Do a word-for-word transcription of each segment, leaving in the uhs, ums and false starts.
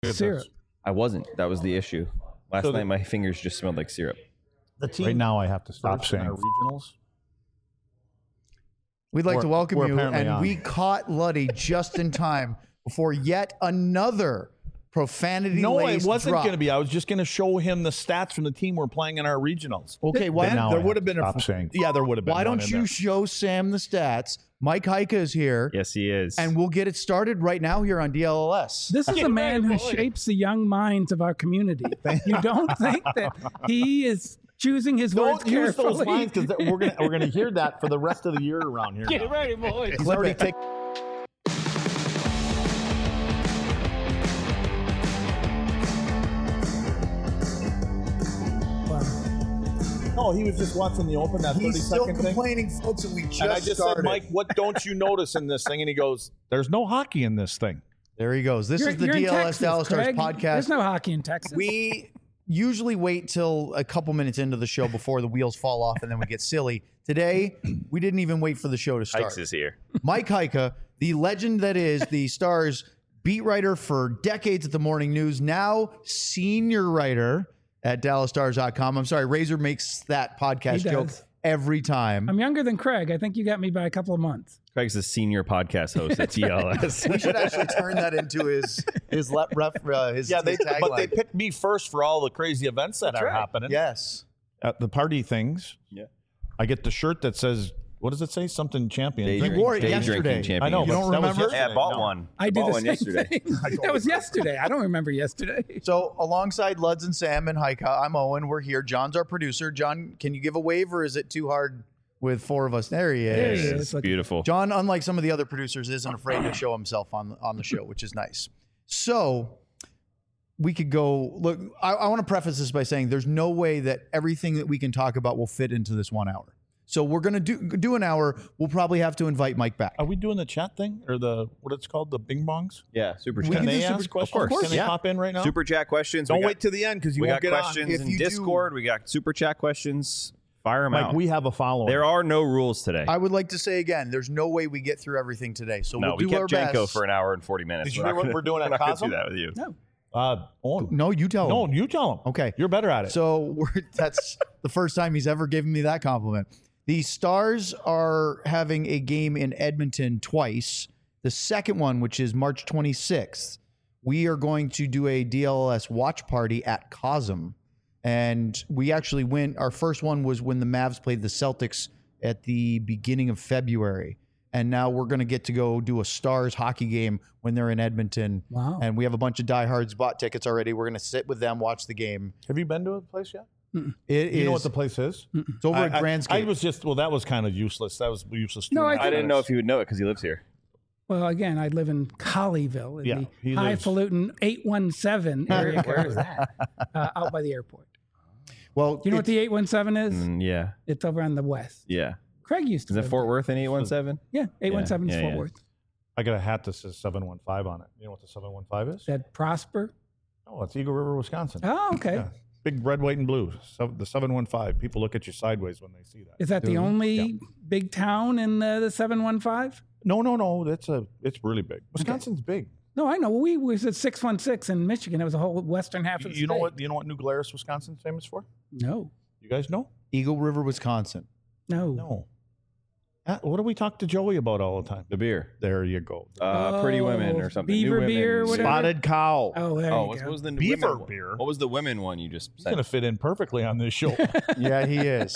syrup. I wasn't. That was the issue. Last So night, the- my fingers just smelled like syrup. The team Right now, I have to stop first in saying. our regionals. We'd like We're- to welcome we're you, apparently and on. we caught Luddy just in time before yet another profanity. No, it wasn't going to be. I was just going to show him the stats from the team we're playing in our regionals. Okay, why, Then now I there have would have to been a. stop saying. Yeah, there would have been. why one don't in you there. show Sam the stats? Mike Heika is here, Yes, he is. and we'll get it started right now here on D L L S. This is Yeah, a man right, who boy. shapes the young minds of our community. You don't think that he is choosing his words Don't use those carefully? lines because we're gonna we're gonna hear that for the rest of the year around here. Get now. ready, boys. He's already taken. No, he was just watching the open that thirty He's still second thing. complaining, folks, and we just, And I just started. said, Mike, what don't you notice in this thing? And he goes, "There's no hockey in this thing." There he goes. This You're, is the you're in D L S Texas, Dallas Stars Craig. podcast. There's no hockey in Texas. We usually wait till a couple minutes into the show before the wheels fall off and then we get silly. Today, we didn't even wait for the show to start. Hikes is here. Mike Heika, the legend that is the Stars beat writer for decades at the Morning News, now senior writer at Dallas Stars dot com. I'm sorry, Razor makes that podcast He joke does. every time. I'm younger than Craig. I think you got me by a couple of months. Craig's the senior podcast host at T L S. we should actually turn that into his his let ref uh, his, Yeah, they his but they tagline. picked me first for all the crazy events that are right. happening. Yes. At the party things. Yeah. I get the shirt that says, what does it say? Something champion. Day, You drink, wore it day yesterday. drinking champion. I know. You but don't that was remember? Yeah, I yesterday. bought No. one. I did bought the one same yesterday. thing. That was yesterday. I don't remember yesterday. So alongside Luds and Sam and Heika, I'm Owen. We're here. John's our producer. John, can you give a wave or is it too hard with four of us? There he is. There he It's is. Look, beautiful. John, unlike some of the other producers, isn't afraid to show himself on on the show, which is nice. So we could go look. I, I want to preface this by saying there's no way that everything that we can talk about will fit into this one hour. So we're gonna do do an hour. We'll probably have to invite Mike back. Are we doing the chat thing or the what it's called, the Bing Bongs? Yeah, super We chat. Can can do they super- ask of questions? course, Can they yeah. pop in right now? Super chat questions. Don't we got, wait till the end because you we won't got get questions If in you do- Discord. We got super chat questions. Fire them on. Like out. we have a following. There are no rules today. I would like to say again, there's no way we get through everything today. So no, we'll we do our kept Jenko best. for an hour and forty minutes. Did you We're hear not what gonna- we're doing at we're not gonna Cosmo? do that with you. no. Uh, Owen. No, you tell No, him. you tell him. Okay. You're better at it. So we're, that's the first time he's ever given me that compliment. The Stars are having a game in Edmonton twice. The second one, which is March twenty-sixth, we are going to do a D L L S watch party at Cosm. And we actually went, our first one was when the Mavs played the Celtics at the beginning of February. And now we're going to get to go do a Stars hockey game when they're in Edmonton. Wow. And we have a bunch of diehards bought tickets already. We're going to sit with them, watch the game. have you been to a place yet? It You know is- what the place is? It's over I, at I- Grandscape. I was just well, that was kind of useless. That was useless. No, two I and a half I didn't know minutes. if he would know it because he lives here. Well, again, I live in Colleyville in Yeah, the he lives- highfalutin eight one seven area. Where is that? Uh, out by the airport. well, Do you know what it's- the eight one seven is? Mm, yeah, It's over on the west. yeah. Craig used to Is it live Fort there. Worth in eight one seven? Yeah, eight one seven Yeah, is yeah, Fort yeah. Worth. I got a hat that says seven one five on it. You know what the seven one five is? That Prosper. Oh, it's Eagle River, Wisconsin. Oh, okay. Yeah. Big red, white, and blue. So the seven one five. People look at you sideways when they see that. Is that the only big town in uh, the seven one five? No, no, no. That's a. It's really big. Wisconsin's big. No, I know. We was at six one six in Michigan. It was a whole western half of the You know state. what? You know what New Glarus, Wisconsin's famous for? No, You guys know? Eagle River, Wisconsin. no. No. Uh, what do we talk to Joey about all the time? The beer. There you go. Uh, Pretty Women or something. Beaver New beer, Women. whatever. Spotted cow. Oh, there Oh, you what go. was the Beaver women one? beer. What was the women one you just He's said? going to fit in perfectly on this show. Yeah, he is.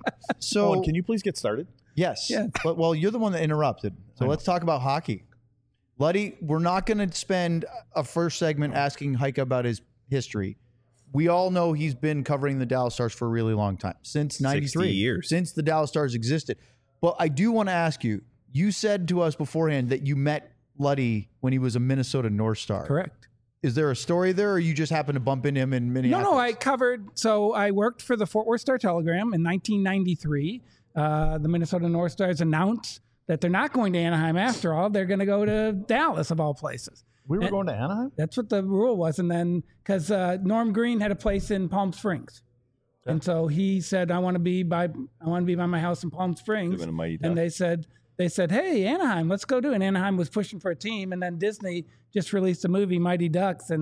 So, Owen, can you please get started? yes. Yeah. But, well, you're the one that interrupted. So I let's talk about hockey. Luddy, we're not going to spend a first segment asking Heike about his history. We all know he's been covering the Dallas Stars for a really long time, since ninety-three. years. Since the Dallas Stars existed. But I do want to ask you, you said to us beforehand that you met Luddy when he was a Minnesota North Star. Correct. Is there a story there, or you just happened to bump into him in No, Minneapolis? no, I covered. So I worked for the Fort Worth Star Telegram in nineteen ninety-three. Uh, the Minnesota North Stars announced that they're not going to Anaheim after all. They're going to go to Dallas, of all places. We were And- going to Anaheim? That's what the rule was. And then, because uh, Norm Green had a place in Palm Springs. And so he said, I want to be by I want to be by my house in Palm Springs. Living a Mighty Duck. And they said, they said, hey, Anaheim, let's go do it. And Anaheim was pushing for a team. And then Disney just released a movie, Mighty Ducks. And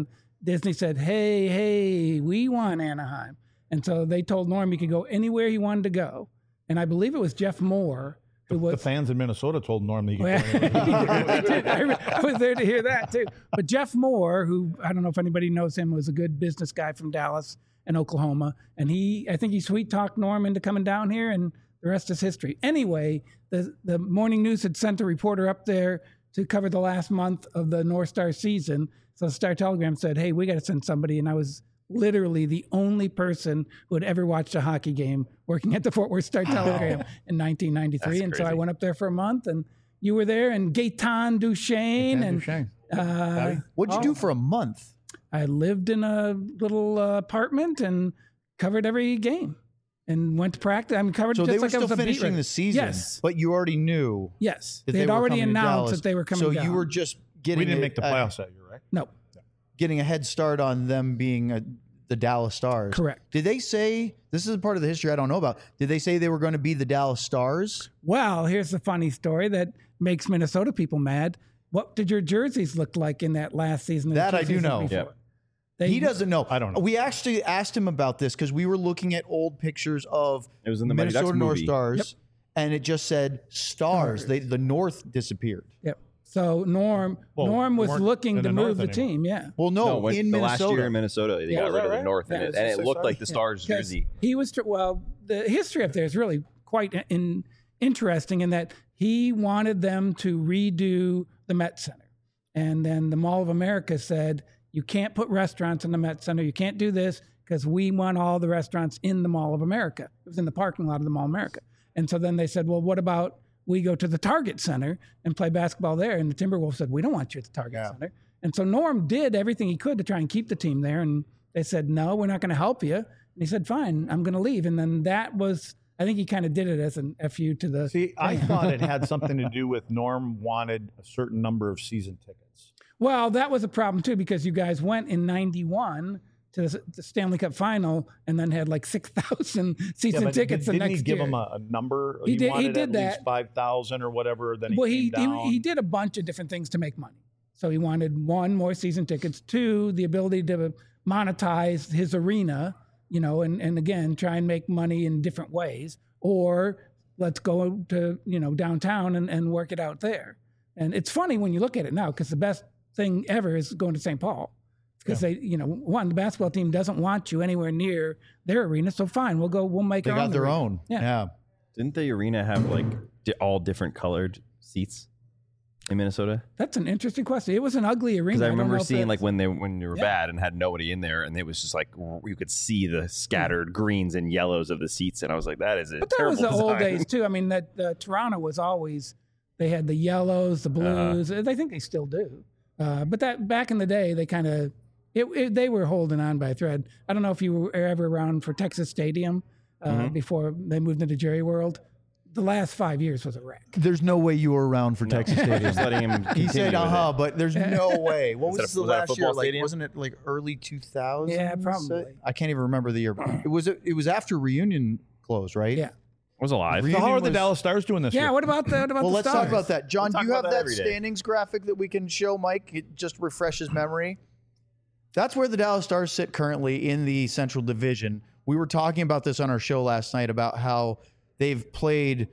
Disney said, hey, hey, we want Anaheim. And so they told Norm he could go anywhere he wanted to go. And I believe it was Jeff Moore who was. The fans in Minnesota told Norm that he could Well, go anywhere. I, did. I, re- I was there to hear that too. But Jeff Moore, who I don't know if anybody knows him, was a good business guy from Dallas and Oklahoma. And he, I think he sweet talked Norm into coming down here, and the rest is history. Anyway, the, the Morning News had sent a reporter up there to cover the last month of the North Star season. So the Star Telegram said, hey, we got to send somebody. And I was literally the only person who had ever watched a hockey game working at the Fort Worth Star Telegram in nineteen ninety-three. That's and so I crazy. went up there for a month, and you were there, and Gaetan Duchesne. Gaetan and Duchesne. Uh, What'd you oh, do for a month? I lived in a little uh, apartment and covered every game and went to practice. I mean, covered So just they were like I still was a beat finishing writer. the season, Yes. but you already knew Yes. that They they had were already coming to announced Dallas. that they were coming So down. you were just getting We didn't a- make the a- playoffs that year, right? No, getting a head start on them being a, the Dallas Stars. correct. Did they say, this is a part of the history I don't know about, did they say they were going to be the Dallas Stars? Well, here's the funny story that makes Minnesota people mad. What did your jerseys look like in that last season? and the That two I do seasons know. before? Yep. They, He doesn't know. I don't know. We actually asked him about this because we were looking at old pictures of It was in the Mighty Minnesota Ducks North movie. Stars, and it just said Stars. Stars. They, the North disappeared. Yep. So Norm, Well, Norm was weren't looking in to the move North the anymore. team. Yeah. Well, no, No, when, in the Minnesota. last year in Minnesota, they Yeah, got was rid that of the right? North, Yeah, and it it, was and just it so looked sorry. like the Stars Because jersey. He was, tr- well, the history up there is really quite in, interesting in that he wanted them to redo the Met Center. And then the Mall of America said, you can't put restaurants in the Met Center. You can't do this because we want all the restaurants in the Mall of America. It was in the parking lot of the Mall of America. And so then they said, well, what about we go to the Target Center and play basketball there? And the Timberwolves said, we don't want you at the Target Yeah. Center. And so Norm did everything he could to try and keep the team there. And they said, no, we're not going to help you. And he said, fine, I'm going to leave. And then that was, I think he kind of did it as an F U to the. See, I thought it had something to do with Norm wanted a certain number of season tickets. Well, that was a problem too, because you guys went in ninety-one to the the Stanley Cup final and then had like six thousand season but tickets did, the didn't next he give year. him a, a number? He did- he wanted did at that. least five thousand or whatever. Then he well, came he, down. he he did a bunch of different things to make money. So he wanted one, more season tickets, two, the ability to monetize his arena, you know, and, and again, try and make money in different ways, or let's go to, you know, downtown and, and work it out there. And it's funny when you look at it now, because the best thing ever is going to Saint Paul. Because they, you know, one, the basketball team doesn't want you anywhere near their arena. So fine, we'll go, we'll make They our got own their arena. own. Yeah. Yeah. Didn't the arena have like di- all different colored seats in Minnesota? That's an interesting question. It was an ugly arena. Because I don't remember know if seeing that's- like when they when they were Yeah. bad and had nobody in there, and it was just like r- you could see the scattered greens and yellows of the seats, and I was like, that is a But that terrible was the old design. days too. I mean, that uh, Toronto was always they had the yellows, the blues. Uh-huh. I think they still do. Uh, but that back in the day, they kind of it, it, they were holding on by a thread. I don't know if you were ever around for Texas Stadium uh, Mhm. before they moved into Jerry World. The last five years was a wreck. There's no way you were around for No. Texas Stadium. Just letting him He continue said, with uh it. huh, but there's no way. What Was that was a- the was that a last year? football Like, stadium? wasn't it like early two thousands? Yeah, probably. I can't even remember the year. It was it was after Reunion closed, right? Yeah. was alive. Re- So how are the was- Dallas Stars doing this Yeah. year? What about that? About Well, the let's Stars? talk about that. John, We'll do talk you have about that that every day. standings graphic that we can show Mike? It just refresh his memory. That's where the Dallas Stars sit currently in the Central Division. We were talking about this on our show last night about how they've played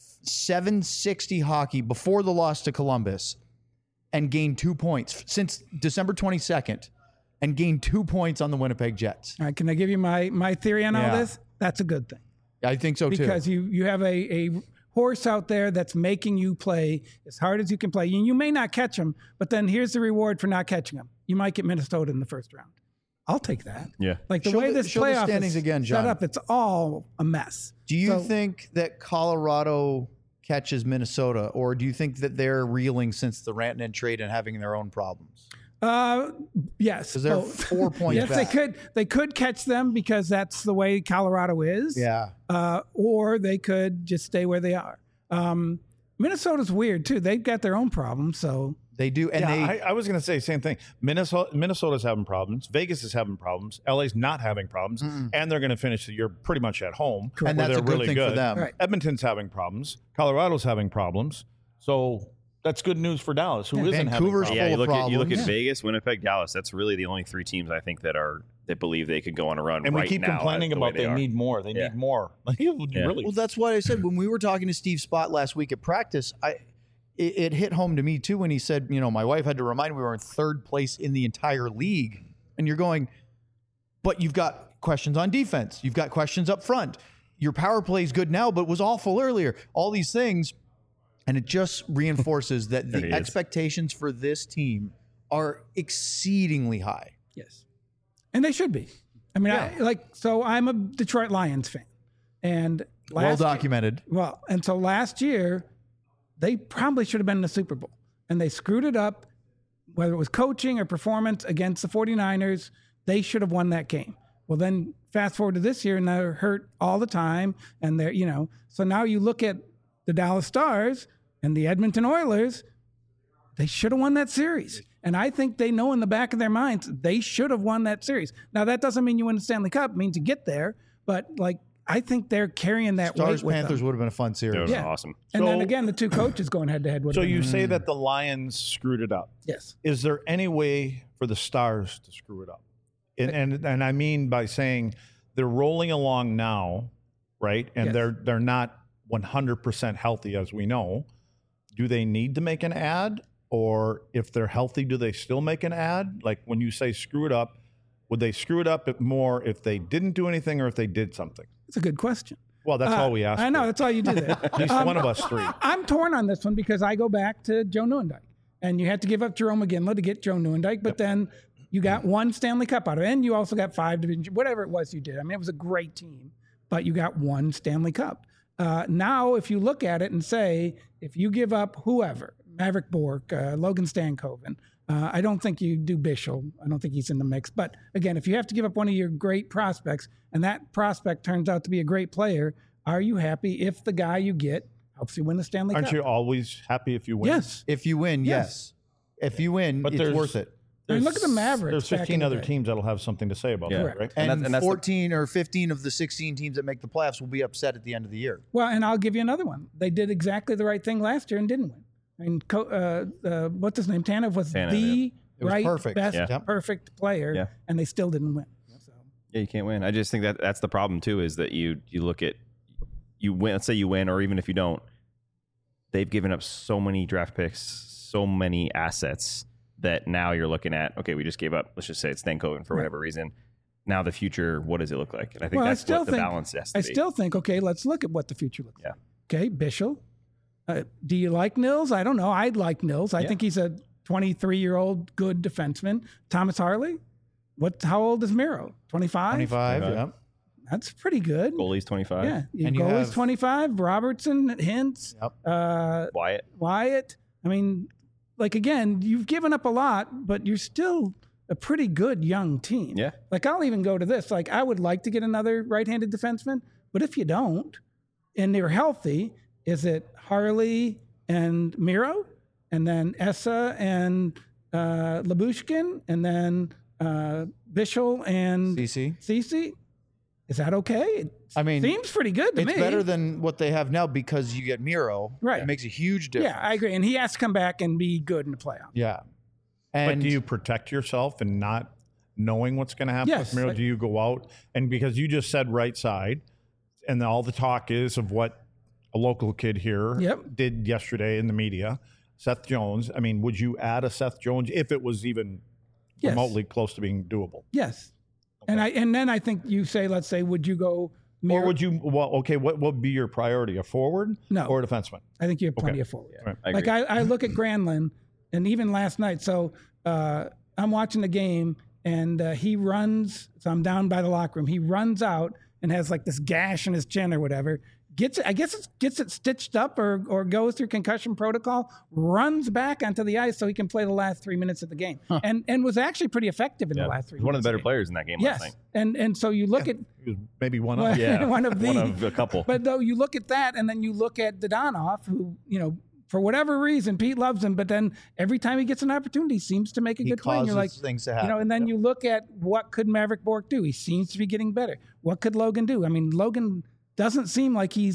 seven sixty hockey before the loss to Columbus and gained two points since December twenty-second and gained two points on the Winnipeg Jets. All right, can I give you my my theory on Yeah. all this? That's a good thing. I think so too. Because you you have a, a horse out there that's making you play as hard as you can play. And you may not catch him, but then here's the reward for not catching him. You might get Minnesota in the first round. I'll take that. Yeah. Like the Show way the- this show the playoff standings is again, set John. up, it's all a mess. Do you So- think that Colorado catches Minnesota, or do you think that they're reeling since the Rantanen trade and having their own problems? Uh, yes. Because they're both. four points yes, back. they could. They could catch them because that's the way Colorado is. Yeah. Uh, or they could just stay where they are. Um, Minnesota's weird too. They've got their own problems. So They do. And yeah, they I, I was going to say the same thing. Minnesota, Minnesota's having problems. Vegas is having problems. L A's not having problems, and they're going to finish the year pretty much at home. and where that's they're a good really thing good. for them. Right. Edmonton's having problems. Colorado's having problems. So That's good news for Dallas, who isn't Vancouver's having Yeah, full you of look at you look problems. at Vegas, Winnipeg, Dallas. That's really the only three teams I think that are that believe they could go on a run. And right we keep now complaining the way about they, are. need more. They Yeah. need more. Like, really. Well, that's what I said when we were talking to Steve Spott last week at practice. I it, it hit home to me too when he said, you know, my wife had to remind me we were in third place in the entire league, and you're going, but you've got questions on defense, you've got questions up front. Your power play is good now, but was awful earlier. All these things, and it just reinforces that It the is. expectations for this team are exceedingly high. Yes. And they should be. I mean, I, like, so I'm a Detroit Lions fan. And last Well year- documented. well, and so last year, they probably should have been in the Super Bowl. And they screwed it up, whether it was coaching or performance against the 49ers. They should have won that game. Well, then fast forward to this year, and they're hurt all the time. And they're, you know, so now you look at the Dallas Stars and the Edmonton Oilers, they should have won that series. And I think they know in the back of their minds they should have won that series. Now, that doesn't mean you win the Stanley Cup. It means you get there. But, like, I think they're carrying that Stars weight with Panthers them. would have been a fun That series. was Yeah. awesome. And then So- again, the two coaches going head to head. So you say that the Lions screwed it up. Yes. Is there any way for the Stars to screw it up? And and, and I mean by saying they're rolling along now, right? And Yes. they're they're not one hundred percent healthy, as we know. Do they need to make an ad? Or if they're healthy, do they still make an ad? Like when you say screw it up, would they screw it up more if they didn't do anything or if they did something? It's a good question. Well, that's Uh, all we asked. I know. for. That's all you do there. At least Um, one of us three. I'm torn on this one because I go back to Joe Neuendijk. And you had to give up Jerome McGinley to get Joe Neuendijk, but then you got one Stanley Cup out of it. And you also got five division, whatever it was you did. I mean, it was a great team, but you got one Stanley Cup. Uh, now, if you look at it and say, if you give up whoever, Maverick Bork, uh, Logan Stankoven, uh, I don't think you do Bischel. I don't think he's in the mix. But again, if you have to give up one of your great prospects and that prospect turns out to be a great player, are you happy if the guy you get helps you win the Stanley Aren't Cup? you always happy if you win? Yes. If you win, Yes. yes. If you win, But it's there's- worth it. I mean, look at the Mavericks. There's back fifteen in the other day. teams that'll have something to say about Yeah. that, right? And, And that's- and that's the- fourteen or fifteen of the sixteen teams that make the playoffs will be upset at the end of the year. Well, and I'll give you another one. They did exactly the right thing last year and didn't win. I mean, co- uh, uh, what's his name? Tanev was Tanev, the yeah. It was right, perfect. best, Yeah. Yep. perfect player, Yeah. and they still didn't win. So, Yeah, you can't win. I just think that that's the problem too. Is that you you look at you win. Let's say you win, or even if you don't, they've given up so many draft picks, so many assets that now you're looking at. Okay, we just gave up. Let's just say it's Stankoven for Right. whatever reason. Now the future, what does it look like? And I think well, I that's still what the think balance has to I be. still think okay. Let's look at what the future looks Yeah. like. Okay, Bischel. Uh, do you like Nils? I don't know. I'd like Nils. I Yeah. think he's a twenty-three year old good defenseman. Thomas Harley. What? How old is Miro? twenty-five. twenty-five. Okay. Yeah. That's pretty good. Goalie's twenty-five. Yeah, your And you goalie's have- twenty-five. Robertson, Hintz, Yep. uh, Wyatt. Wyatt. I mean, like again, you've given up a lot, but you're still a pretty good young team. Yeah. Like I'll even go to this. Like I would like to get another right-handed defenseman, but if you don't, and they're healthy, is it Harley and Miro, and then Essa and uh, Labushkin, and then uh, Bischel and C C. Cece? Is that okay? It I mean, seems pretty good to it's me. better than what they have now because you get Miro. Right. It makes a huge difference. Yeah, I agree. And he has to come back and be good in the playoffs. Yeah. But And do you protect yourself and not knowing what's going to happen Yes. with Miro? Like- Do you go out and because you just said right side, and all the talk is of what a local kid here Yep. did yesterday in the media, Seth Jones. I mean, would you add a Seth Jones if it was even Yes. remotely close to being doable? Yes. And I and then I think you say, let's say, would you go? Mir- Or would you? Well, okay. What would be your priority? A forward No. or a defenseman? I think you have plenty Okay. of forward. Right. I Like agree. I, I look at Granlund, and even last night. So uh, I'm watching the game, and uh, he runs. So I'm down by the locker room. He runs out and has like this gash in his chin or whatever. Gets it. I guess it gets it stitched up or or goes through concussion protocol. Runs back onto the ice so he can play the last three minutes of the game, and and was actually pretty effective in Yeah. the last three. He's one of the better minutes players in that game Yes, last night. and and so you look at He was maybe one Well, of. Yeah, one of the one of a couple. But though you look at that, and then you look at Dodonov, who you know for whatever reason Pete loves him, but then every time he gets an opportunity, he seems to make a he good play. And causes you're like, things to you happen. know, and then you look at what could Maverick Bork do? He seems to be getting better. What could Logan do? I mean, Logan doesn't seem like he's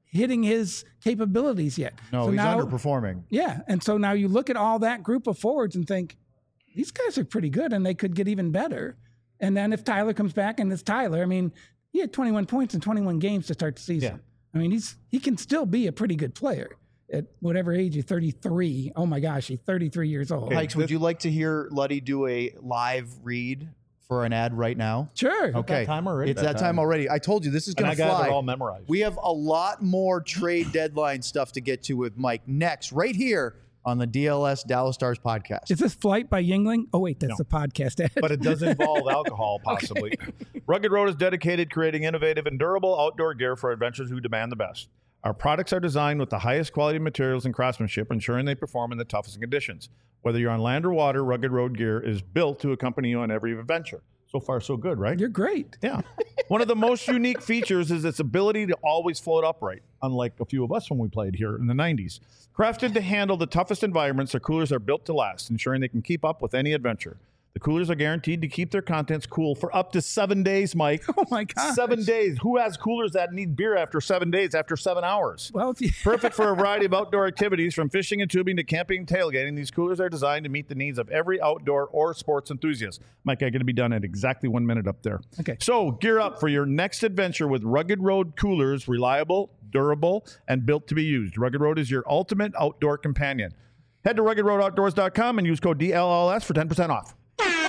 hitting his capabilities yet. No, so he's now, underperforming. Yeah, and so now you look at all that group of forwards and think, these guys are pretty good, and they could get even better. And then if Tyler comes back, and it's Tyler, I mean, he had twenty-one points in twenty-one games to start the season. Yeah. I mean, he's he can still be a pretty good player at whatever age. He's thirty-three. Oh my gosh, he's thirty-three years old. Hikes, would you like to hear Luddy do a live read for an ad right now? Sure. Okay. that time already? It's that, That time. time. already. I told you this is And going I to got fly. it all memorized. We have a lot more trade deadline stuff to get to with Mike next, right here on the D L S Dallas Stars podcast. Is this Flight by Yingling? Oh wait, that's No. the podcast ad. but it does involve alcohol, possibly. Rugged Road is dedicated to creating innovative and durable outdoor gear for adventurers who demand the best. Our products are designed with the highest quality materials and craftsmanship, ensuring they perform in the toughest conditions. Whether you're on land or water, Rugged Road gear is built to accompany you on every adventure. So far, so good, right? You're great. Yeah. One of the most unique features is its ability to always float upright, unlike a few of us when we played here in the nineties. Crafted to handle the toughest environments, our coolers are built to last, ensuring they can keep up with any adventure. The coolers are guaranteed to keep their contents cool for up to seven days, Mike. Oh my God. Seven days. Who has coolers that need beer after seven days, after seven hours? Well, if you, Perfect for a variety of outdoor activities, from fishing and tubing to camping and tailgating. These coolers are designed to meet the needs of every outdoor or sports enthusiast. Mike, I'm going to be done in exactly one minute up there. Okay. So gear up for your next adventure with Rugged Road coolers, reliable, durable, and built to be used. Rugged Road is your ultimate outdoor companion. Head to rugged road outdoors dot com and use code D L L S for ten percent off.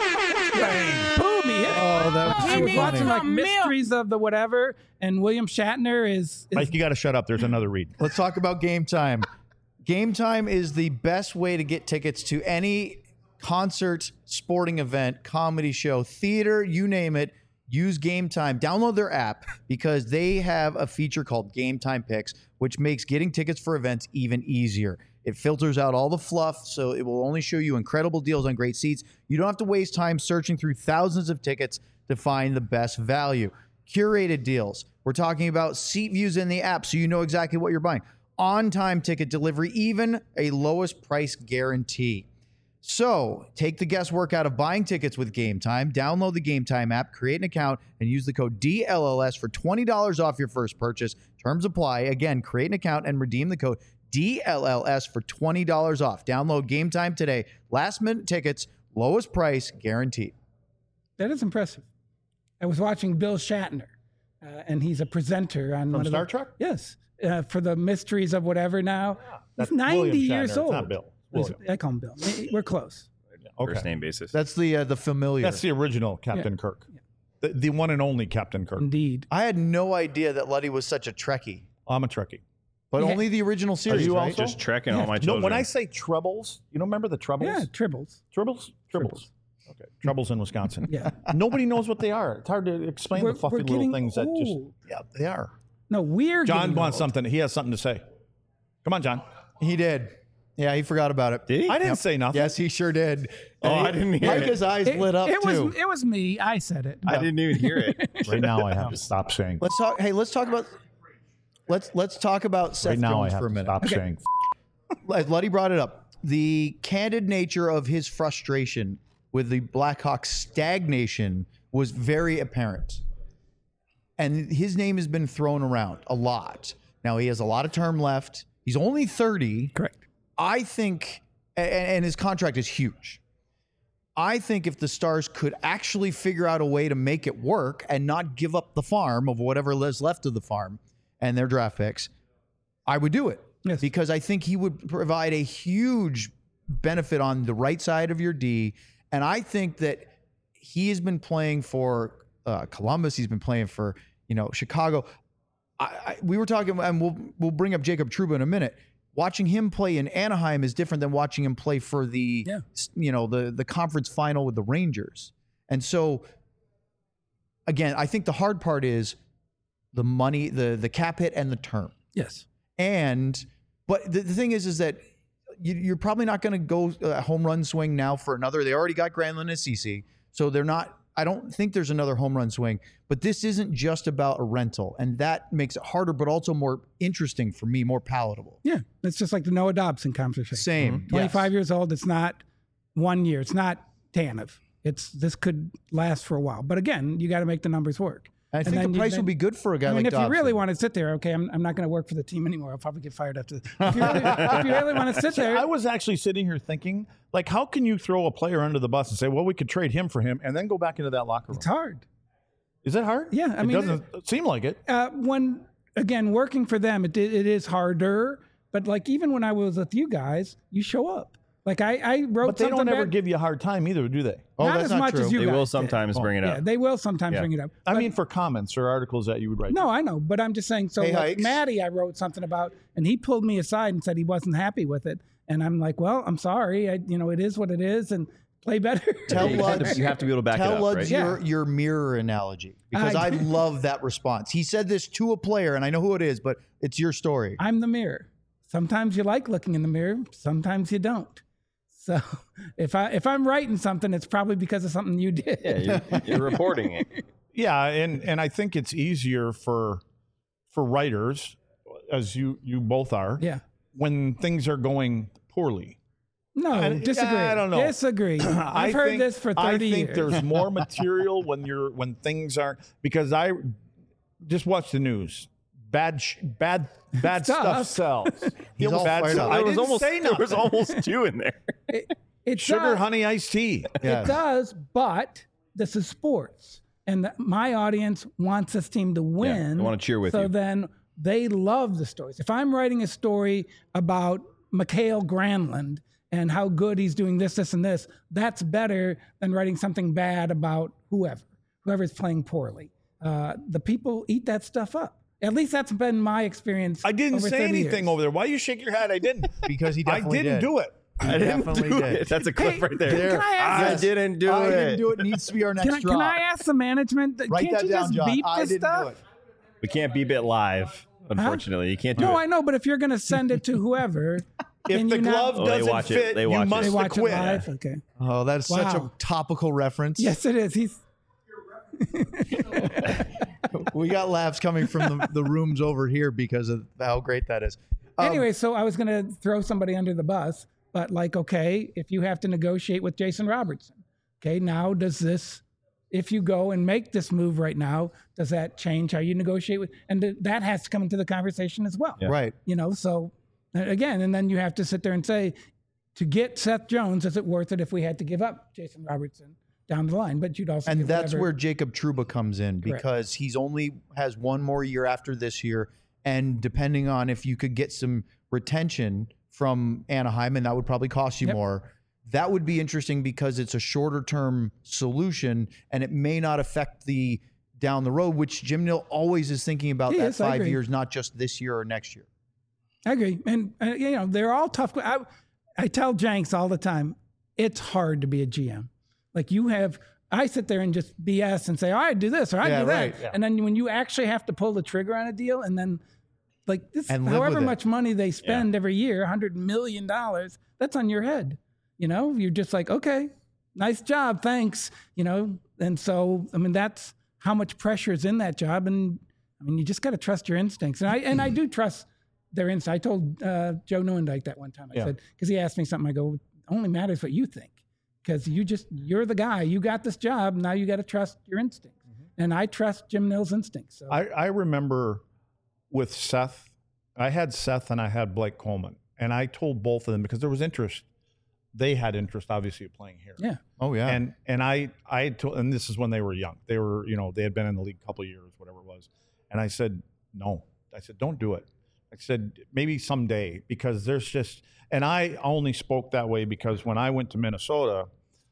boom, he hit it. Oh, that was I too was watching funny. like Mysteries of the whatever, and William Shatner is, is Mike, you got to shut up. There's another read. Let's talk about Game Time. Game Time is the best way to get tickets to any concert, sporting event, comedy show, theater, you name it. Use Game Time. Download their app because they have a feature called Game Time Picks, which makes getting tickets for events even easier. It filters out all the fluff, so it will only show you incredible deals on great seats. You don't have to waste time searching through thousands of tickets to find the best value. Curated deals. We're talking about seat views in the app, so you know exactly what you're buying. On-time ticket delivery, even a lowest price guarantee. So take the guesswork out of buying tickets with Game Time. Download the Game Time app, create an account, and use the code D L L S for twenty dollars off your first purchase. Terms apply. Again, create an account and redeem the code D L L S for twenty dollars off. Download Game Time today. Last minute tickets, lowest price guaranteed. that is impressive. I was watching Bill Shatner, uh, and he's a presenter on From one of Star the, Trek? Yes, uh, for the Mysteries of whatever. Now That's he's ninety William years Shatner. It's old. not Bill. He's- William. I call him Bill. We're close. Okay. First name basis. That's the uh, the familiar. That's the original Captain Kirk. The, the one and only Captain Kirk. Indeed. I had no idea that Luddy was such a Trekkie, I'm a Trekkie. but Yeah. only the original series, you right? also? Just trekking all my No, children. when I say trebles, you don't remember the trebles? Yeah, tribbles. Tribbles? Tribbles. Okay. Trebles in Wisconsin. Yeah. Nobody knows what they are. It's hard to explain We're- the fluffy we're little getting things that just. old. Yeah, they are. No, we're John getting wants old. something. He has something to say. Come on, John. He did. Yeah, he forgot about it. Did he? I didn't say nothing. Yes, he sure did. Oh, I didn't hear Like it. his eyes It, lit up it too. was it was me. I said it. I didn't even hear it. Right now, I have to stop saying. Let's talk. Hey, let's talk about. Let's let's talk about Seth Right now, I Jones have for a to minute. stop saying. As Luddy brought it up, the candid nature of his frustration with the Blackhawks stagnation was very apparent, and his name has been thrown around a lot. Now he has a lot of term left. He's only thirty. Correct. I think, and, and his contract is huge. I think if the Stars could actually figure out a way to make it work and not give up the farm of whatever is left of the farm and their draft picks, I would do it. Yes. Because I think he would provide a huge benefit on the right side of your D. And I think that he has been playing for uh, Columbus. He's been playing for, you know, Chicago. I, I, we were talking, and we'll we'll bring up Jacob Trouba in a minute. Watching him play in Anaheim is different than watching him play for the, Yeah. you know, the the conference final with the Rangers. And so, again, I think the hard part is the money, the the cap hit, and the term. Yes. And but the, the thing is, is that you, you're probably not going to go a home run swing now for another. They already got Granlund and Ceci, so they're not. I don't think there's another home run swing. But this isn't just about a rental, and that makes it harder, but also more interesting for me, more palatable. Yeah. It's just like the Noah Dobson conversation. Same. twenty-five Yes. years old. It's not one year. It's not Tanev. It's this could last for a while. But again, you got to make the numbers work. I think then the you- price then- would be good for a guy I mean, like if you Dobson. really want to sit there, okay, I'm, I'm not going to work for the team anymore. I'll probably get fired after this. If you really, if you really want to sit there, I was actually sitting here thinking, like, how can you throw a player under the bus and say, well, we could trade him for him, and then go back into that locker room? it's hard. Is it hard? Yeah, I it mean, doesn't seem like it. Uh, when again working for them, it it is harder. But like even when I was with you guys, you show up. Like I, I wrote But they something don't ever bad, give you a hard time either, do they? Oh, not that's as not much true. as you They guys will did. sometimes bring it Yeah, up. they will sometimes Yeah. bring it up. I But- mean, for comments or articles that you would write. no, I know, but I'm just saying. So Hey, like Hikes. Maddie, I wrote something about, and he pulled me aside and said he wasn't happy with it, and I'm like, well, I'm sorry. I, you know, it is what it is, and play better. Tell you, have Luds- to, you have to be able to back Tell it up, Luds right? your, Yeah. your mirror analogy because I, I- love that response. He said this to a player, and I know who it is, but it's your story. I'm the mirror. Sometimes you like looking in the mirror, sometimes you don't. So if I if I'm writing something, it's probably because of something you did. Yeah, you're, you're reporting it. Yeah, and and I think it's easier for for writers, as you you both are, Yeah. when things are going poorly. No, I- disagree. I don't know. Disagree. I I've heard think- this for thirty I think years. there's more material when you're when things aren't, because I just watch the news. Bad sh- bad bad Stuff. stuff sells. He's all bad fired stuff. up. I There was didn't almost say there was nothing. almost two in there. It, it Sugar does, honey iced tea. Yeah. It does, but this is sports, and the, my audience wants this team to win. they wanna cheer with so you. then they love the stories. If I'm writing a story about Mikhail Granlund and how good he's doing this, this, and this, that's better than writing something bad about whoever, whoever's playing poorly. Uh, the people eat that stuff up. At least that's been my experience. I didn't over say thirty anything years. over there. Why you shake your head? I didn't. Because he I definitely didn't did. do it. He definitely do did. it. That's a clip Hey, right there. There. Can I ask? I Yes. didn't do I it. didn't do it. Needs to be our next Can I, drop. can I ask the management? that- Write can't that you down, just John. beep I this didn't stuff? do it. We can't beep it live, unfortunately. You can't do No, it. I know, but if you're going to send it to whoever, If can the you glove not, Oh, they doesn't watch it. fit, They you watch it. must they watch it quit. live. Okay. Oh, that's such a Wow. topical reference. Yes, it is. He's We got laughs coming from the, the rooms over here because of how great that is. Um, anyway. So I was going to throw somebody under the bus, but like, okay, if you have to negotiate with Jason Robertson, okay, now does this? If you go and make this move right now, does that change how you negotiate with? And th- that has to come into the conversation as well. Right. You know, so uh, again, and then you have to sit there and say, to get Seth Jones, is it worth it if we had to give up Jason Robertson down the line? But you'd also And give that's whatever- where Jacob Trouba comes in Correct. because he's only has one more year after this year. And depending on if you could get some retention from Anaheim, and that would probably cost you Yep. more, that would be interesting because it's a shorter term solution and it may not affect the down the road, which Jim Nill always is thinking about He that is, I five agree. years, not just this year or next year. I agree, and uh, you know they're all tough. I, I tell Jenks all the time, it's hard to be a G M. Like you have, I sit there and just B S and say, oh, I do this or I Yeah, do that, right, yeah. and then when you actually have to pull the trigger on a deal, and then like this, And live however with it. much money they spend every year, hundred million dollars, that's on your head. You know, you're just like, okay, nice job, thanks. You know, and so I mean that's how much pressure is in that job, and I mean you just got to trust your instincts, and I and I do trust their instincts. I told uh, Joe Newendike that one time. I Yeah. said because he asked me something, I go, it only matters what you think, because you just you're the guy, you got this job, now you got to trust your instincts, and I trust Jim Nill's instincts. So I, I remember with Seth, I had Seth and I had Blake Coleman, and I told both of them because there was interest. They had interest, obviously, of playing here. yeah, Oh, yeah. And and I I had told, and this is when they were young. They were, you know, they had been in the league a couple of years, whatever it was. And I said, no. I said, don't do it. I said, maybe someday, because there's just, and I only spoke that way because when I went to Minnesota,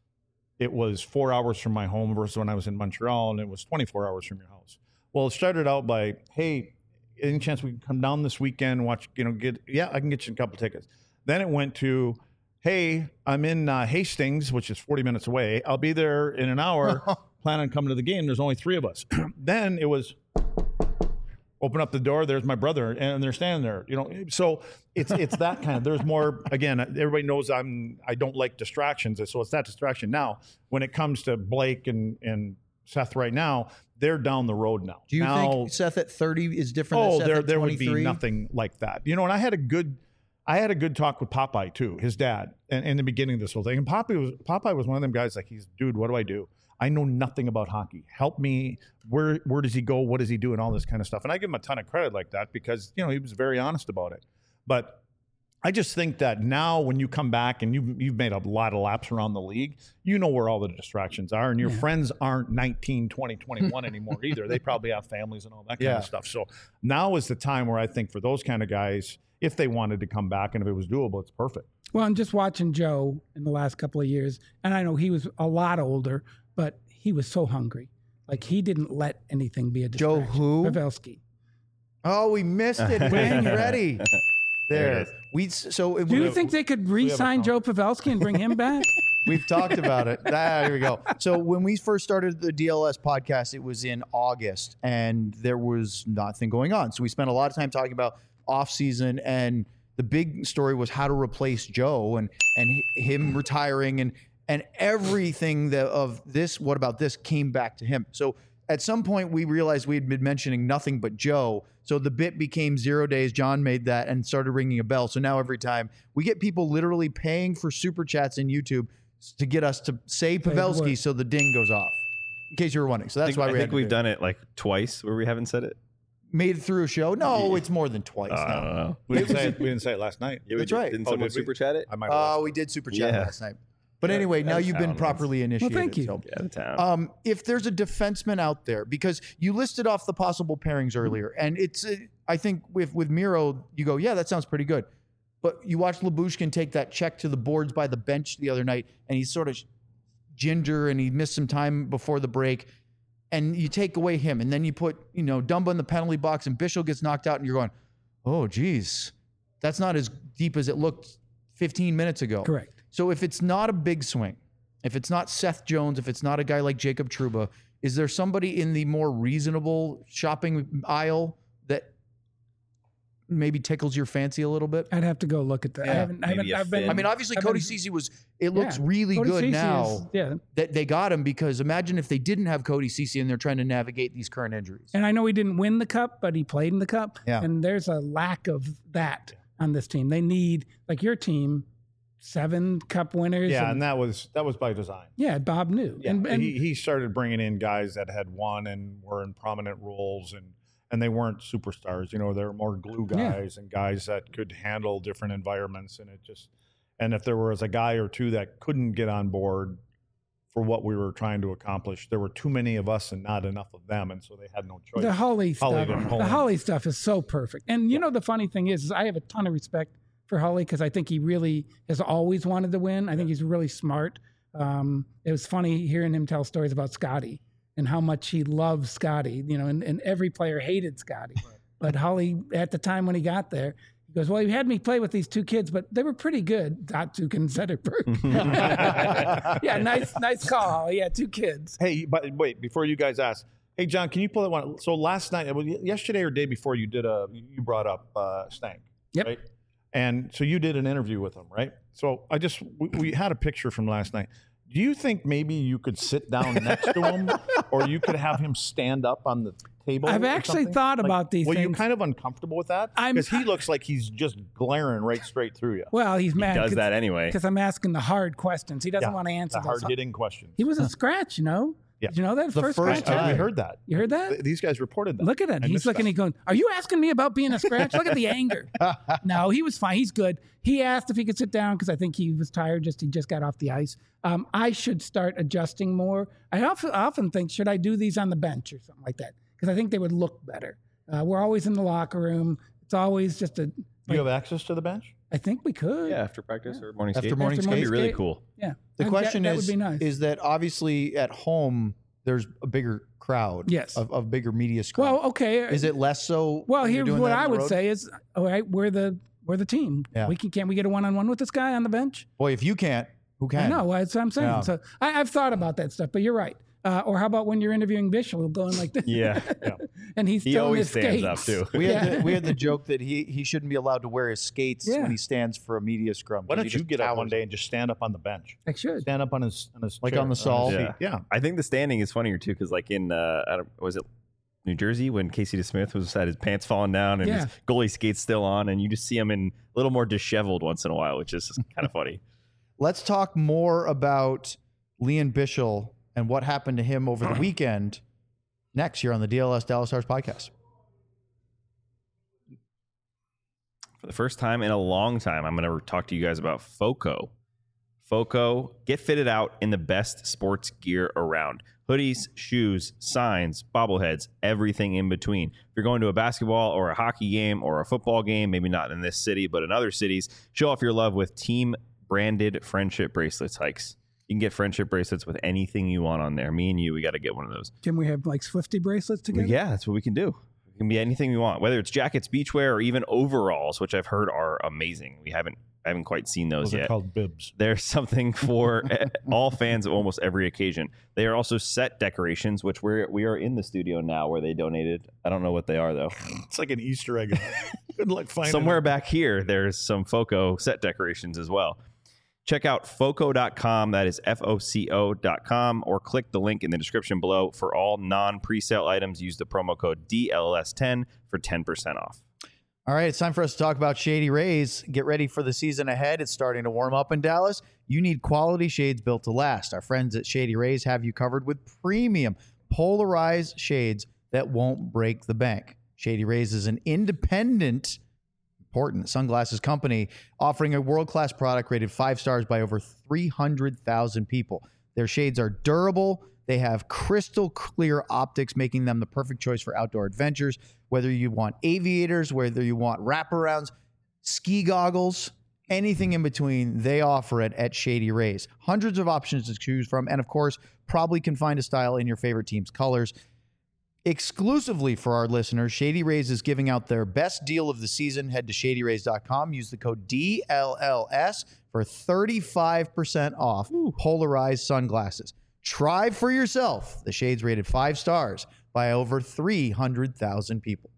it was four hours from my home versus when I was in Montreal, and it was twenty-four hours from your house. Well, it started out by, hey, any chance we can come down this weekend, watch, you know, get, yeah, I can get you a couple tickets. Then it went to, hey, I'm in uh, Hastings, which is forty minutes away. I'll be there in an hour. Plan on coming to the game. There's only three of us. Then it was, open up the door. There's my brother, and they're standing there. You know, so it's it's that kind of. There's more. Again, everybody knows I'm. I don't like distractions, so it's that distraction. Now, when it comes to Blake and and Seth, right now, they're down the road now. Do you now, think Seth at thirty is different Oh, than Seth there at there would twenty-three? be nothing like that. You know, and I had a good. I had a good talk with Popeye too, his dad, and in the beginning of this whole thing. And Popeye was Popeye was one of them guys like, he's dude, what do I do? I know nothing about hockey. Help me. Where where does he go? What does he do? And all this kind of stuff. And I give him a ton of credit like that because, you know, he was very honest about it. But I just think that now when you come back and you've, you've made a lot of laps around the league, you know where all the distractions are. And your Yeah. friends aren't nineteen, twenty, twenty-one anymore either. They probably have families and all that kind Yeah. of stuff. So now is the time where I think for those kind of guys, if they wanted to come back and if it was doable, it's perfect. Well, I'm just watching Joe in the last couple of years, and I know he was a lot older, but he was so hungry. Like, he didn't let anything be a Joe distraction. who? Pavelski. Oh, we missed it. We ain't ready. There it There. is. We so it, Do you we, think they could re-sign Joe Pavelski and bring him back? we've talked about it. Ah, here we go. So when we first started the D L S podcast, it was in August, and there was nothing going on. So we spent a lot of time talking about off season, and the big story was how to replace Joe and and hi- him retiring and and everything that of this. What about this came back to him? So at some point we realized we had been mentioning nothing but Joe. So the bit became zero days. John made that and started ringing a bell. So now every time we get people literally paying for super chats in YouTube to get us to say Say the Pavelski word. so the ding goes off. In case you were wondering. So I that's think, why I we think had to we've do it. done it like twice where we haven't said it. Made it through a show. No, it's more than twice. Uh, I now. don't know. We didn't say it, we didn't say it last night. Yeah, we That's did- right. Didn't Oh, someone did we? super chat it? I might have Oh, we did super chat Yeah. last night. But Yeah, anyway, now out of you've town, been man. properly initiated. thank you. so- Yeah, the town. Um, if there's a defenseman out there, because you listed off the possible pairings earlier, and it's, uh, I think with with Miro, you go, yeah, that sounds pretty good. But you watch Lyubushkin take that check to the boards by the bench the other night, and he's sort of ginger, and he missed some time before the break, and you take away him, and then you put, you know, Dumba in the penalty box, and Bishop gets knocked out, and you're going, oh, geez, that's not as deep as it looked fifteen minutes ago. Correct. So if it's not a big swing, if it's not Seth Jones, if it's not a guy like Jacob Trouba, is there somebody in the more reasonable shopping aisle that maybe tickles your fancy a little bit? I'd have to go look at that. I Yeah. haven't. I haven't. Maybe a I've been. Finn. I mean, obviously I've Cody been- Ceci was, it looks Yeah. really Cody good Ceci now is- yeah. that they got him, because imagine if they didn't have Cody Ceci and they're trying to navigate these current injuries. And I know he didn't win the cup, but he played in the cup. Yeah. And there's a lack of that on this team. They need, like your team, seven cup winners. Yeah, and- and that was that was by design. yeah, Bob knew. Yeah, and, and he, he started bringing in guys that had won and were in prominent roles, and and they weren't superstars. You know, they were more glue Yeah. guys and guys that could handle different environments. And it just, and if there was a guy or two that couldn't get on board for what we were trying to accomplish, there were too many of us and not enough of them, and so they had no choice. the Holly stuff. Holly didn't pull the in. Holly stuff is so perfect. And you know the funny thing is, is I have a ton of respect for Holly because I think he really has always wanted to win. I think he's really smart. Um, it was funny hearing him tell stories about Scotty and how much he loves Scotty. You know, and, and every player hated Scotty. But Holly, at the time when he got there, he goes, "Well, he had me play with these two kids, but they were pretty good." Datsuk and Zetterberg. yeah, nice, nice call, Holly. Yeah, two kids. Hey, but wait, before you guys ask, hey John, can you pull that one? So last night, well, yesterday or day before, you did a you brought up uh, Stank, Yep. right? And so you did an interview with him, right? So I just we, we had a picture from last night. Do you think maybe you could sit down next to him, or you could have him stand up on the table? I've or actually something? thought Like, about these Were you things. kind of uncomfortable with that? I'm- Because he looks like he's just glaring right straight through you. Well, he's mad. Does that anyway? Because I'm asking the hard questions. He doesn't Yeah, want to answer The those. hard hitting questions. He was a scratch, you know? Yeah. Did you know that? The first, first scratch. I, time. we heard that. You heard that? Th- These guys reported that. Look at it. I He's missed looking, that. he's going, "Are you asking me about being a scratch?" Look at the anger. No, he was fine. He's good. He asked if he could sit down because I think he was tired. Just He just got off the ice. Um, I should start adjusting more. I often, often think, should I do these on the bench or something like that? Because I think they would look better. Uh, we're always in the locker room. It's always just a, Do you have access to the bench? I think we could. Yeah, after practice or morning After skate. morning That'd be skate. really cool. Yeah. The That- question that, is, that would be nice. is that obviously at home there's a bigger crowd, Yes. of, of bigger media screen. well, okay. Is it less so? Well, when you're here's doing what that on I the would road? say is, all right, we're the we're the team. Yeah. We can can't we get a one on one with this guy on the bench? Boy, if you can't, who can? I know that's what I'm saying. Yeah. So I, I've thought about that stuff, but you're right. Uh, or how about when you're interviewing Bishop, going like this? Yeah. and he's He still in always his stands skates. up too. We had Yeah. the, we had the joke that he he shouldn't be allowed to wear his skates Yeah. when he stands for a media scrum. Why 'cause don't he you just get up one towers. day and just stand up on the bench? I should. Stand up on his on his Like chair, on the his Saul? seat. Yeah. Yeah. I think the standing is funnier too, because like in uh, I don't, was it New Jersey when Casey DeSmith was had his pants falling down and Yeah. his goalie skates still on, and you just see him in a little more disheveled once in a while, which is kind of funny. Let's talk more about Leon Bischel and what happened to him over the weekend next year on the D L S Dallas Stars podcast. For the first time in a long time, I'm going to talk to you guys about FOCO. FOCO, get fitted out in the best sports gear around. Hoodies, shoes, signs, bobbleheads, everything in between. If you're going to a basketball or a hockey game or a football game, maybe not in this city, but in other cities, show off your love with team-branded friendship bracelets, Hikes. You can get friendship bracelets with anything you want on there. Me and you, we got to get one of those. Can we have like Swifty bracelets together? Yeah, that's what we can do. It can be anything we want, whether it's jackets, beachwear, or even overalls, which I've heard are amazing. We haven't I haven't quite seen those, Those yet. are called bibs. There's something for all fans of almost every occasion. They are also set decorations, which we're we are in the studio now where they donated. I don't know what they are though. It's like an Easter egg. Good luck finding Somewhere it. back here, there's some FOCO set decorations as well. Check out foco dot com. That is F O C O dot com, or click the link in the description below. For all non-presale items, use the promo code D L S ten for ten percent off. All right, it's time for us to talk about Shady Rays. Get ready for the season ahead. It's starting to warm up in Dallas. You need quality shades built to last. Our friends at Shady Rays have you covered with premium polarized shades that won't break the bank. Shady Rays is an independent, important sunglasses company offering a world-class product rated five stars by over three hundred thousand people. Their shades are durable. They have crystal clear optics, making them the perfect choice for outdoor adventures. Whether you want aviators, whether you want wraparounds, ski goggles, anything in between, they offer it at Shady Rays. Hundreds of options to choose from, and of course, probably can find a style in your favorite team's colors. Exclusively for our listeners, Shady Rays is giving out their best deal of the season. Head to shady rays dot com. Use the code D L L S for thirty-five percent off Ooh. polarized sunglasses. Try for yourself. The shades rated five stars by over three hundred thousand people.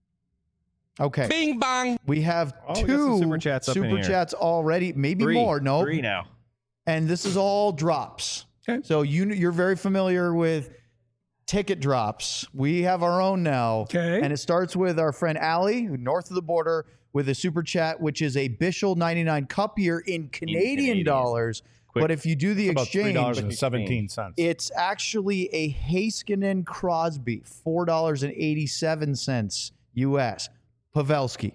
Okay. Bing bong. We have Oh, we got two some super chats up in super here. chats already, maybe Three. more. No. Three now. And this is all drops. Okay. So you, you're very familiar with ticket drops. We have our own now. Okay. And it starts with our friend Allie, who north of the border, with a super chat, which is a Bishel ninety-nine cup year in Canadian, Canadian. dollars. Quick. But if you do the About three dollars exchange, and seventeen cents. it's actually a Heiskanen Crosby, four dollars and eighty-seven cents U S. Pavelski.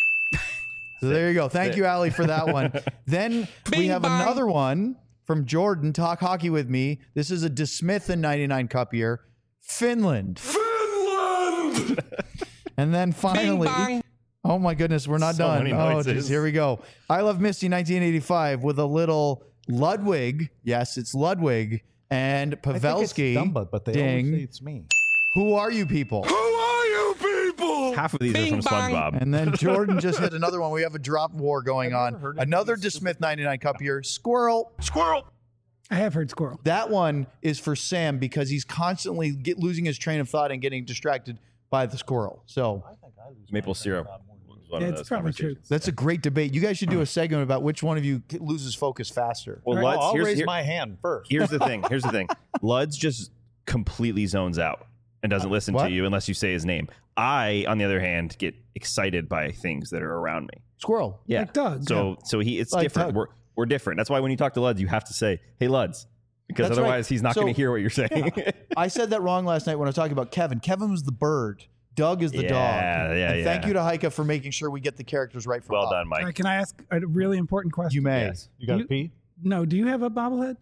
So there you go. Thank you, Allie, for that one. Then we Bing have bong. another one from Jordan. Talk hockey with me. This is a DeSmith in ninety-nine cup year. Finland. Finland. And then finally, bong. oh my goodness, we're not So done. many Oh, noises. geez, here we go. I Love Misty nineteen eighty-five with a little Ludwig. Yes, it's Ludwig and Pavelski. Dumba, but they Ding. always say it's me. Who are you people? Who are you people? Half of these Bing are from bong. SpongeBob. And then Jordan just hit another one. We have a drop war going I've never on. heard of Another these DeSmith ninety-nine cup year. Squirrel. Squirrel. I have heard squirrel. That one is for Sam because he's constantly get, losing his train of thought and getting distracted by the squirrel. So Maple syrup. was one Yeah, of it's those probably true. conversations. that's a great debate. You guys should do a segment about which one of you loses focus faster. Well, Well, Luds, I'll here's, raise here- my hand first. here's the thing. Here's the thing. Luds just completely zones out and doesn't listen What? to you unless you say his name. I, on the other hand, get excited by things that are around me. Squirrel. Yeah. Like Doug, So so he it's Like different. Doug. We're we're different. That's why when you talk to Luds, you have to say, "Hey Luds," because That's right. otherwise he's not So- going to hear what you're saying. I said that wrong last night when I was talking about Kevin. Kevin was the bird. Doug is the Yeah, dog. yeah, and thank yeah. you to Heike for making sure we get the characters right for well Bob. done, All right, Mike. can I ask a really important question? You may. Yes. You got to You- pee? No, do you have a bobblehead?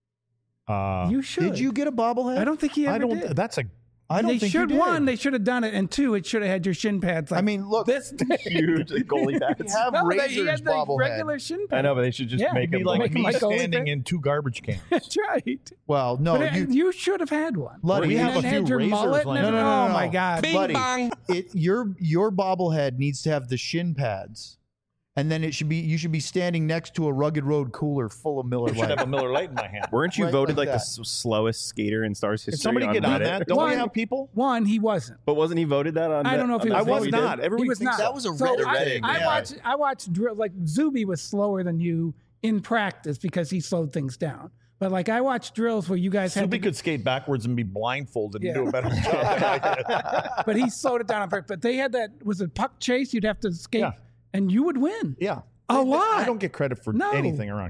Uh, you should. Did you get a bobblehead? I don't think he ever I don't. did. That's a. I don't they think should you did. one. They should have done it, and two, it should have had your shin pads. Like I mean, look, this. Huge goalie we pads. have No, they, he Razor's had the bobblehead. regular shin pads. I know, but they should just Yeah, make Be him like Make me Mike Goalie standing fan? in two garbage cans. That's right. Well, no, but it- you, you, should have had one. Luddy, We And have then a had few your razors mullet and laying everything. No, no, no, Oh no. my god. Bing buddy, bong. it, your your bobblehead needs to have the shin pads, and then it should be you should be standing next to a Rugged Road cooler full of Miller I should have Lite. a Miller Lite in my hand. Weren't you Right voted like like, that. the s- slowest skater in Stars history? Can somebody get on Reddit? that? Don't One- we have people? One, he wasn't. But wasn't he voted that on? I don't know if he on was that I thing was we did? not. Everyone He was thinks not. that was a So Reddit I, thing, I yeah. watched. I watched drill. Like Zuby was slower than you in practice because he slowed things down. But like I watched drills where you guys had. Somebody To, could skate backwards and be blindfolded Yeah. and do a better job. but he slowed it down on purpose. But they had that. Was it puck chase? You'd have to skate, Yeah. and you would win. Yeah. A I- lot. I don't get credit for No. anything around here.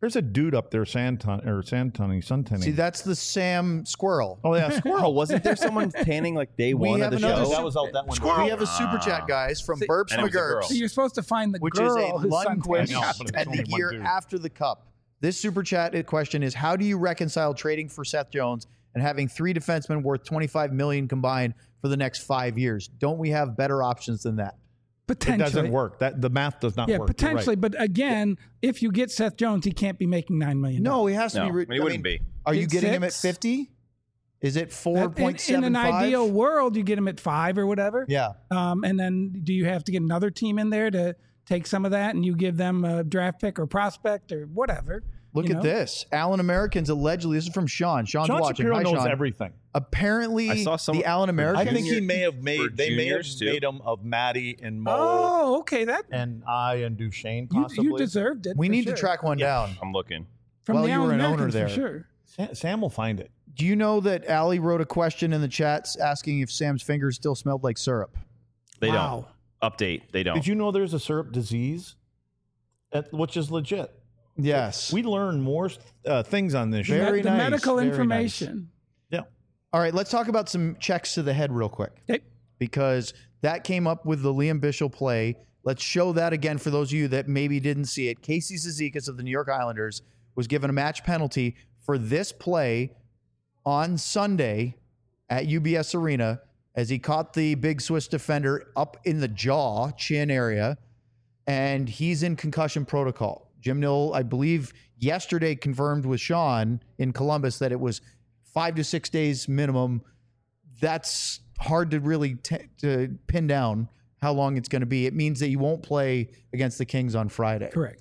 There's a dude up there, sand ton or sand tunning, sun tanning. See, that's the Sam Squirrel. oh yeah, squirrel. Oh, wasn't there someone tanning like day We one have of the another show? su- That was out that one. We have a super chat, guys, from See- Burps And it was a girl. McGurps, So you're supposed to find the which girl is a who's Lundqvist suntanning. I know, but it's and only the one year dude. after the Cup. This super chat question is: how do you reconcile trading for Seth Jones and having three defensemen worth twenty-five million dollars combined for the next five years? Don't we have better options than that? It Potentially. doesn't work. That the math does not Yeah, work. You're potentially. right. But again, if you get Seth Jones, he can't be making nine million dollars. No, he has to No, be. Re- he wouldn't be. Are you Big getting him at six? fifty? Is it four In, point in seven an five? ideal world, you get him at five or whatever. Yeah. Um, and then do you have to get another team in there to take some of that and you give them a draft pick or prospect or whatever? Look you at know? this. Allen Americans allegedly. This is from Sean. Sean's Sean watching. Shapiro Hi, knows Sean. everything. Apparently, I saw some- the Allen I Americans. think he Junior- may have for made. They may have juniors, too. made him of Maddie and Mo Oh, okay. That and I and Duchesne you, possibly. you deserved it. we for need sure. to track one down. I'm looking. from well, the you were Allen an owner Americans there. for sure. Sam, Sam will find it. Do you know that Allie wrote a question in the chats asking if Sam's fingers still smelled like syrup? They Wow. don't. Update. They don't. Did you know there's a syrup disease, At, which is legit? Yes. We learn more uh, things on this. Very show. the nice, medical very nice. information. Yeah. All right, let's talk about some checks to the head real quick. Okay. Because that came up with the Liam Bishop play. Let's show that again for those of you that maybe didn't see it. Casey Cizikas of the New York Islanders was given a match penalty for this play on Sunday at U B S Arena as he caught the big Swiss defender up in the jaw, chin area, and he's in concussion protocol. Jim Nill, I believe, yesterday confirmed with Sean in Columbus that it was five to six days minimum. That's hard to really t- to pin down how long it's going to be. It means that you won't play against the Kings on Friday. Correct.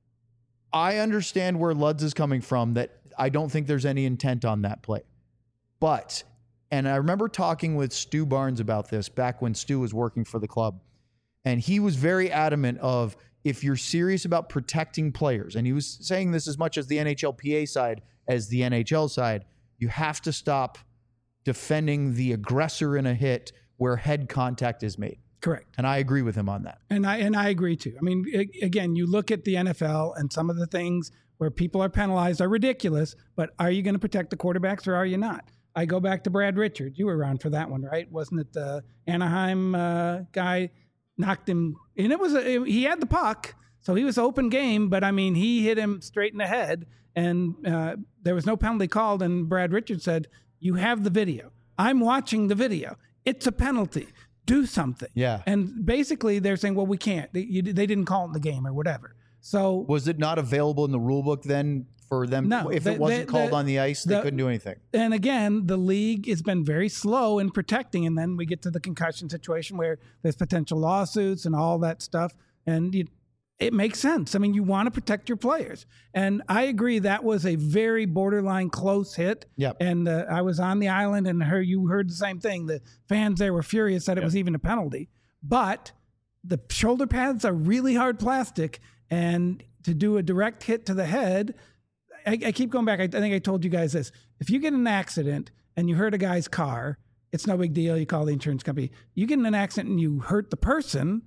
I understand where Luds is coming from, that I don't think there's any intent on that play. But, and I remember talking with Stu Barnes about this back when Stu was working for the club, and he was very adamant of, if you're serious about protecting players, and he was saying this as much as the N H L P A side as the N H L side, you have to stop defending the aggressor in a hit where head contact is made. Correct. And I agree with him on that. And I and I agree too. I mean, a- again, you look at the N F L and some of the things where people are penalized are ridiculous, but are you going to protect the quarterbacks or are you not? I go back to Brad Richards. You were around for that one, right? Wasn't it the Anaheim uh, guy knocked him? And it was a, he had the puck, so he was open game, but I mean, he hit him straight in the head, and uh, there was no penalty called. And Brad Richards said, "You have the video. I'm watching the video. It's a penalty. Do something." Yeah. And basically, they're saying, "Well, we can't. They, you, they didn't call it in the game or whatever." So Was it not available in the rule book then for them? No, if the- it wasn't the- called the- on the ice, they the- couldn't do anything. and again, the league has been very slow in protecting, and then we get to the concussion situation where there's potential lawsuits and all that stuff, and you, it makes sense. I mean, you want to protect your players, and I agree that was a very borderline close hit. Yep. And uh, I was on the island, and heard you heard the same thing. The fans there were furious that it was even a penalty, but the shoulder pads are really hard plastic, and to do a direct hit to the head. I, I keep going back. I, I think I told you guys this. If you get in an accident and you hurt a guy's car, it's no big deal. You call the insurance company. You get in an accident and you hurt the person,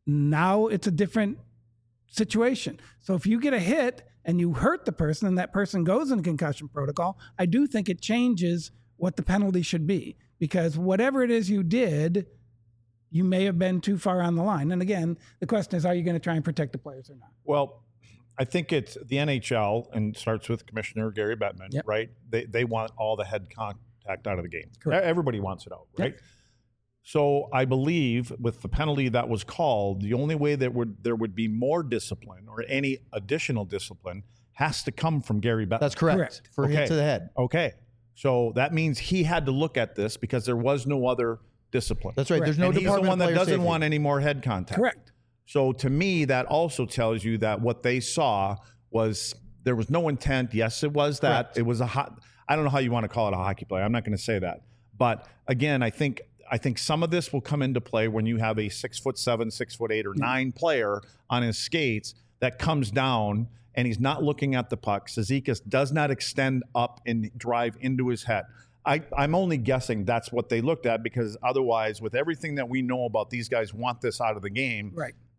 now it's a different situation. So if you get a hit and you hurt the person and that person goes in concussion protocol, I do think it changes what the penalty should be, because whatever it is you did, you may have been too far on the line. And again, the question is, are you going to try and protect the players or not? Well, I think it's the N H L, and starts with Commissioner Gary Bettman, Yep. right? They they want all the head contact out of the game. Correct. Everybody wants it out, Yep. right? So I believe with the penalty that was called, the only way that would there would be more discipline or any additional discipline has to come from Gary Bettman. That's correct. Correct. For a hit Okay. to the head. Okay. So that means he had to look at this because there was no other discipline. That's right. Correct. There's no and he's the department one that of player doesn't safety. want any more head contact. Correct. So to me, that also tells you that what they saw was there was no intent. Yes, it was that. Correct. It was a hot. I don't know how you want to call it a hockey play. I'm not going to say that. But again, I think I think some of this will come into play when you have a six foot seven, six foot eight, or nine player on his skates that comes down and he's not looking at the puck. Cizikas does not extend up and drive into his head. I, I'm only guessing that's what they looked at, because otherwise, with everything that we know about these guys want this out of the game, Right.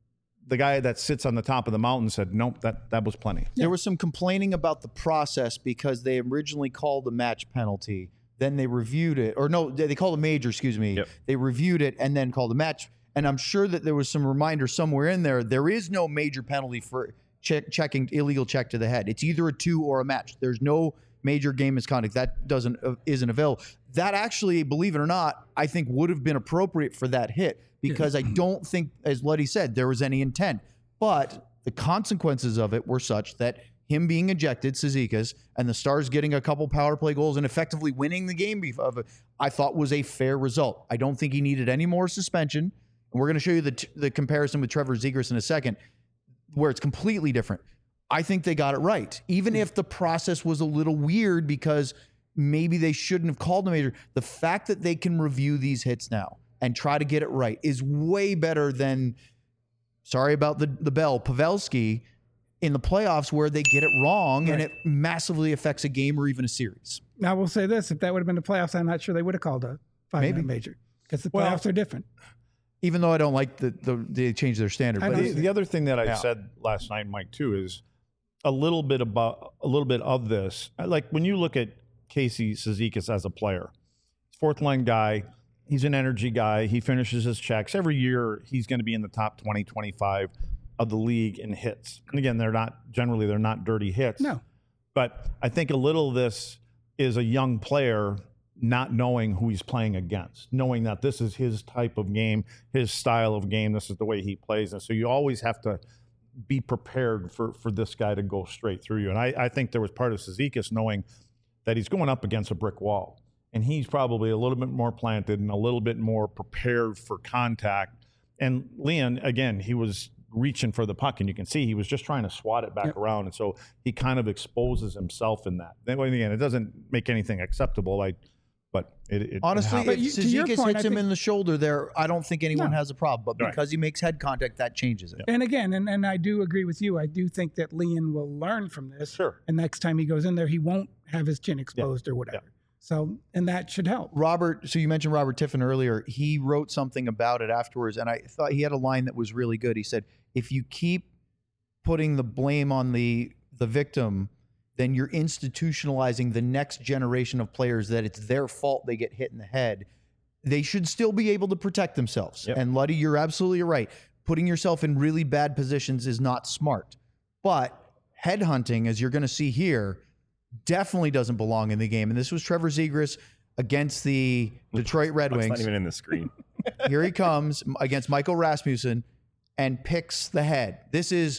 the guy that sits on the top of the mountain said, nope, that, that was plenty. There was some complaining about the process because they originally called a match penalty. Then they reviewed it, or no, they called a major, excuse me. Yep. They reviewed it and then called a match. And I'm sure that there was some reminder somewhere in there. There is no major penalty for check, checking illegal check to the head. It's either a two or a match. There's no major game misconduct that doesn't uh, isn't available. That actually, believe it or not, I think would have been appropriate for that hit because I don't think, as Luddy said, there was any intent. But the consequences of it were such that him being ejected, Cizikas, and the Stars getting a couple power play goals and effectively winning the game of it, I thought was a fair result. I don't think he needed any more suspension. And we're going to show you the t- the comparison with Trevor Zegras in a second, where it's completely different. I think they got it right, even if the process was a little weird because maybe they shouldn't have called a major. The fact that they can review these hits now and try to get it right is way better than, sorry about the, the bell, Pavelski in the playoffs where they get it wrong Right. and it massively affects a game or even a series. Now, we'll say this. If that would have been the playoffs, I'm not sure they would have called a five-man Maybe. major because the Well- playoffs are different. Even though I don't like the, the they changed their standard. I But don't The, it- the other thing that I Yeah. said last night, Mike, too, is a little bit about a little bit of this. Like when you look at Casey Cizikas as a player, fourth line guy, he's an energy guy. He finishes his checks every year. He's going to be in the top twenty, twenty-five of the league in hits. And again, they're not generally they're not dirty hits. No. But I think a little of this is a young player not knowing who he's playing against, knowing that this is his type of game, his style of game, this is the way he plays. And so you always have to be prepared for, for this guy to go straight through you. And I, I think there was part of Cizikas knowing that he's going up against a brick wall. And he's probably a little bit more planted and a little bit more prepared for contact. And Leon, again, he was reaching for the puck, and you can see he was just trying to swat it back Yep. around. And so he kind of exposes himself in that. Then again, it doesn't make anything acceptable. Like, but it, it honestly, it But if you- to your Cizikas point, hits I him think- in the shoulder there, I don't think anyone No. has a problem. But Right. because he makes head contact, that changes it. And again, and, and I do agree with you. I do think that Leon will learn from this. Sure. And next time he goes in there, he won't have his chin exposed or whatever. So, and that should help. Robert, so you mentioned Robert Tiffin earlier. He wrote something about it afterwards, and I thought he had a line that was really good. He said, if you keep putting the blame on the the victim, then you're institutionalizing the next generation of players that it's their fault they get hit in the head. They should still be able to protect themselves. Yep. And Luddy, you're absolutely right. Putting yourself in really bad positions is not smart. But headhunting, as you're going to see here, definitely doesn't belong in the game. And this was Trevor Zegras against the Detroit Red It's Wings. not even in the screen. Here he comes against Michael Rasmussen and picks the head. This is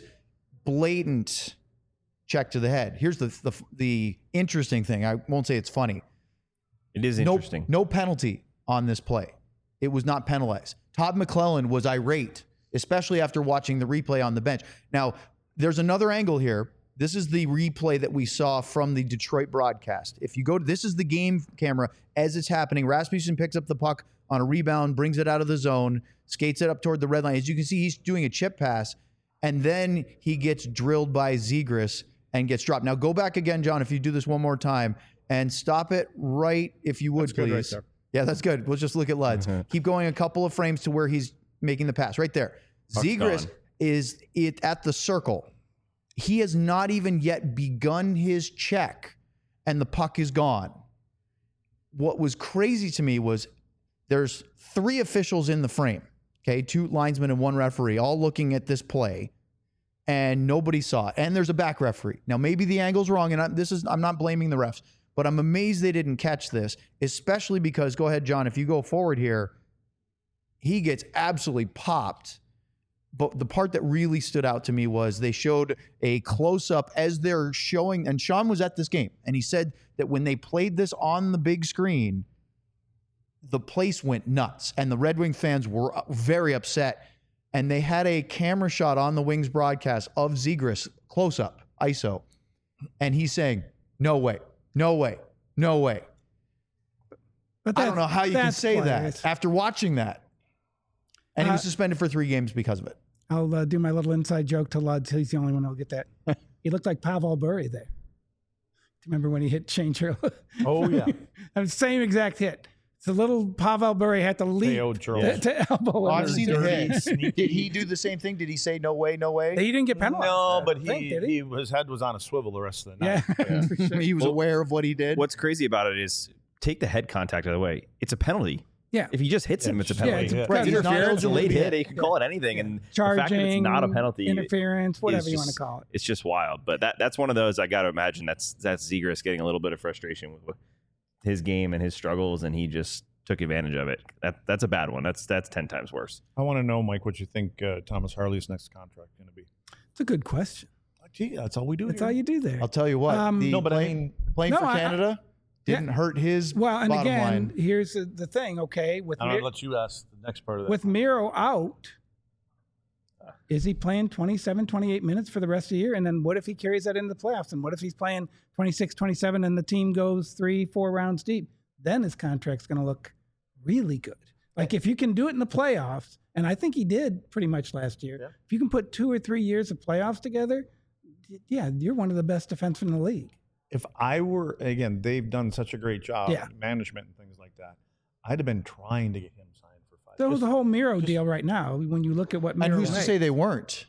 blatant check to the head. Here's the the, the interesting thing. I won't say it's funny. It is No, interesting. no penalty on this play. It was not penalized. Todd McClellan was irate, especially after watching the replay on the bench. Now, there's another angle here. This is the replay that we saw from the Detroit broadcast. If you go to, this is the game camera as it's happening. Rasmussen picks up the puck on a rebound, brings it out of the zone, skates it up toward the red line. As you can see, he's doing a chip pass, and then he gets drilled by Zegras and gets dropped. Now, go back again, John, if you do this one more time, and stop it right, if you would, That's good right please. there. Yeah, that's good. We'll just look at Luds. Keep going a couple of frames to where he's making the pass. Right there. Puck's Zegras gone. is it at the circle. He has not even yet begun his check, and the puck is gone. What was crazy to me was there's three officials in the frame, okay, two linesmen and one referee, all looking at this play, and nobody saw it. And there's a back referee. Now, maybe the angle's wrong, and I'm, this is I'm not blaming the refs, but I'm amazed they didn't catch this, especially because, go ahead, John, if you go forward here, he gets absolutely popped. But the part that really stood out to me was they showed a close-up as they're showing, and Sean was at this game, and he said that when they played this on the big screen, the place went nuts, and the Red Wing fans were very upset, and they had a camera shot on the Wings broadcast of Zegras, close-up, I S O, and he's saying, no way, no way, no way. But I don't know how you can that's say why that it's- after watching that. And he was Uh, suspended for three games because of it. I'll uh, do my little inside joke to Luds. He's the only one who'll get that. He looked like Pavel Bure there. Remember when he hit Shane Churl? Oh, yeah. Same exact hit. So little Pavel Bure had to leap Theo to, Charles. to elbow Oh, him. I've seen the dirty, hit. sneaky. Did he do the same thing? Did he say no way, no way? He didn't get penalized. No, I but don't think, he, did he he? his head was on a swivel the rest of the Yeah, night. for sure. He was Well, aware of what he did. What's crazy about it is take the head contact out of the way. It's a penalty. Yeah. If he just hits him, it's a Yeah, penalty. it's a- It's right, he's not interference, a eligible late to be hit. hit. You can call it anything, and Charging, the fact that it's not a penalty, interference, whatever is you want to just- call it. it's just wild. But that that's one of those I got to imagine that's that's Zegras getting a little bit of frustration with, with his game and his struggles, and he just took advantage of it. That that's a bad one. That's that's ten times worse. I want to know, Mike, what you think uh, Thomas Harley's next contract going to be. It's a good question. Gee, that's all we do. That's here. all you do there. I'll tell you what. Um, the No, but I playing, mean- playing No, for I- I- Canada didn't hurt his Well, and bottom again, line. here's the, the thing. Okay, with I'm Mir- going to let you ask the next part of that. with Miro out, is he playing twenty-seven, twenty-eight minutes for the rest of the year? And then what if he carries that into the playoffs? And what if he's playing twenty-six, twenty-seven and the team goes three, four rounds deep? Then his contract's going to look really good. Like if you can do it in the playoffs, and I think he did pretty much last year, Yeah. if you can put two or three years of playoffs together, yeah, you're one of the best defensemen in the league. if I were, again, they've done such a great job, Yeah. management and things like that. I'd have been trying to get him signed for five. So Just- the whole Miro just- deal right now, when you look at what Miro And who's to made. say they weren't?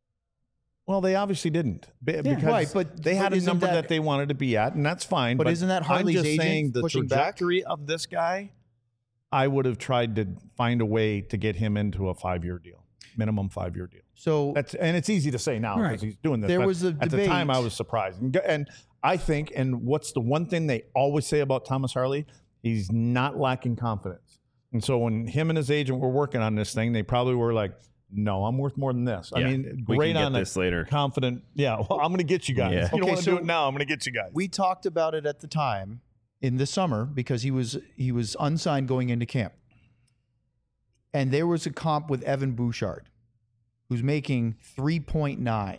Well, they obviously didn't Be- because Right, but- they had but a isn't number that, that- they wanted to be at, and that's fine. But isn't that Harley's I'm just agent saying the pushing back? trajectory of this guy, I would have tried to find a way to get him into a five-year deal, minimum five-year deal. So That's and it's easy to say now because Right. he's doing this. There but was a at the time debate. I was surprised, and, and I think, and what's the one thing they always say about Thomas Harley? He's not lacking confidence. And so when him and his agent were working on this thing, they probably were like, "No, I'm worth more than this." I Yeah, mean, we great can get on this a later. confident. Yeah, well, I'm going to get you guys. Yeah. You don't Okay, want to so do it now. I'm going to get you guys. we talked about it at the time in the summer because he was he was unsigned going into camp. And there was a comp with Evan Bouchard, who's making three point nine.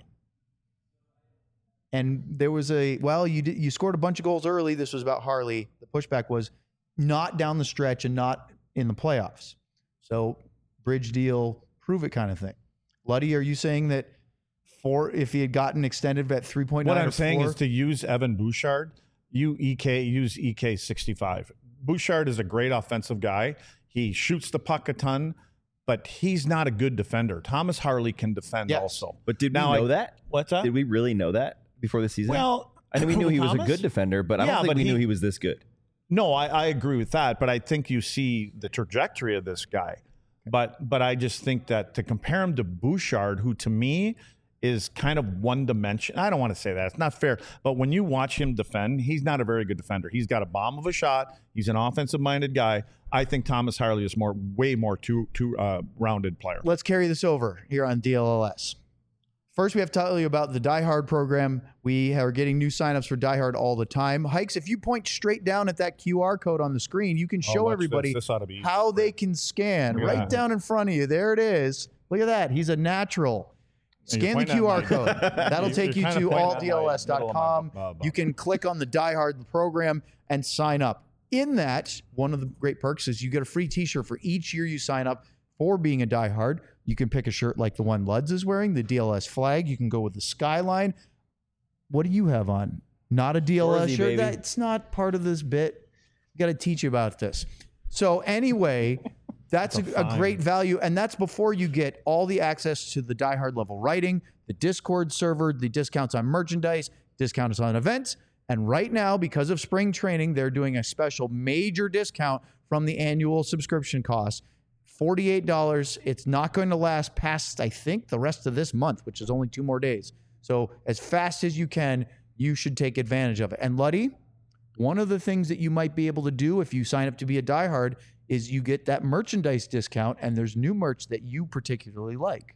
And there was a, well, you did, you scored a bunch of goals early. This was about Harley. The pushback was not down the stretch and not in the playoffs. So bridge deal, prove it kind of thing. Luddy, are you saying that for if he had gotten extended at three point nine? What or I'm saying four, is to use Evan Bouchard, you E K use E K sixty-five. Bouchard is a great offensive guy. He shoots the puck a ton, but he's not a good defender. Thomas Harley can defend Yes. also. But did we Now, know I- that? What's that? Did we really know that before the season? Well, I know we knew he was a Thomas? good defender, but I Yeah, don't think but we he- knew he was this good. No, I, I agree with that, but I think you see the trajectory of this guy. But but I just think that to compare him to Bouchard, who to me is kind of one dimension. I don't want to say that. It's not fair. But when you watch him defend, he's not a very good defender. He's got a bomb of a shot. He's an offensive minded guy. I think Thomas Harley is more way more two two uh, rounded player. Let's carry this over here on D L L S. First, we have to tell you about the Die Hard program. We are getting new signups for Die Hard all the time. Hikes, if you point straight down at that Q R code on the screen, you can Oh, show watch everybody this. This ought to be easy. how they can scan Look at right that. down in front of you. There it is. Look at that. He's a natural. And you're Scan the pointing Q R at code. my- That'll You're take you kinda to pointing all at D L S dot com. my- uh, You can click on the Die Hard program and sign up. In that, one of the great perks is you get a free t-shirt for each year you sign up for being a Die Hard. You can pick a shirt like the one Luds is wearing, the D L S flag. You can go with the skyline. What do you have on? Not a D L S Swarzy, shirt? baby. That's not part of this bit. I got to teach you about this. So anyway, that's a, That's a a fine. great value. And that's before you get all the access to the Die Hard level writing, the Discord server, the discounts on merchandise, discounts on events. And right now, because of spring training, they're doing a special major discount from the annual subscription cost. forty-eight dollars. It's not going to last past, I think, the rest of this month, which is only two more days. So as fast as you can, you should take advantage of it. And Luddy, one of the things that you might be able to do if you sign up to be a diehard is you get that merchandise discount, and there's new merch that you particularly like.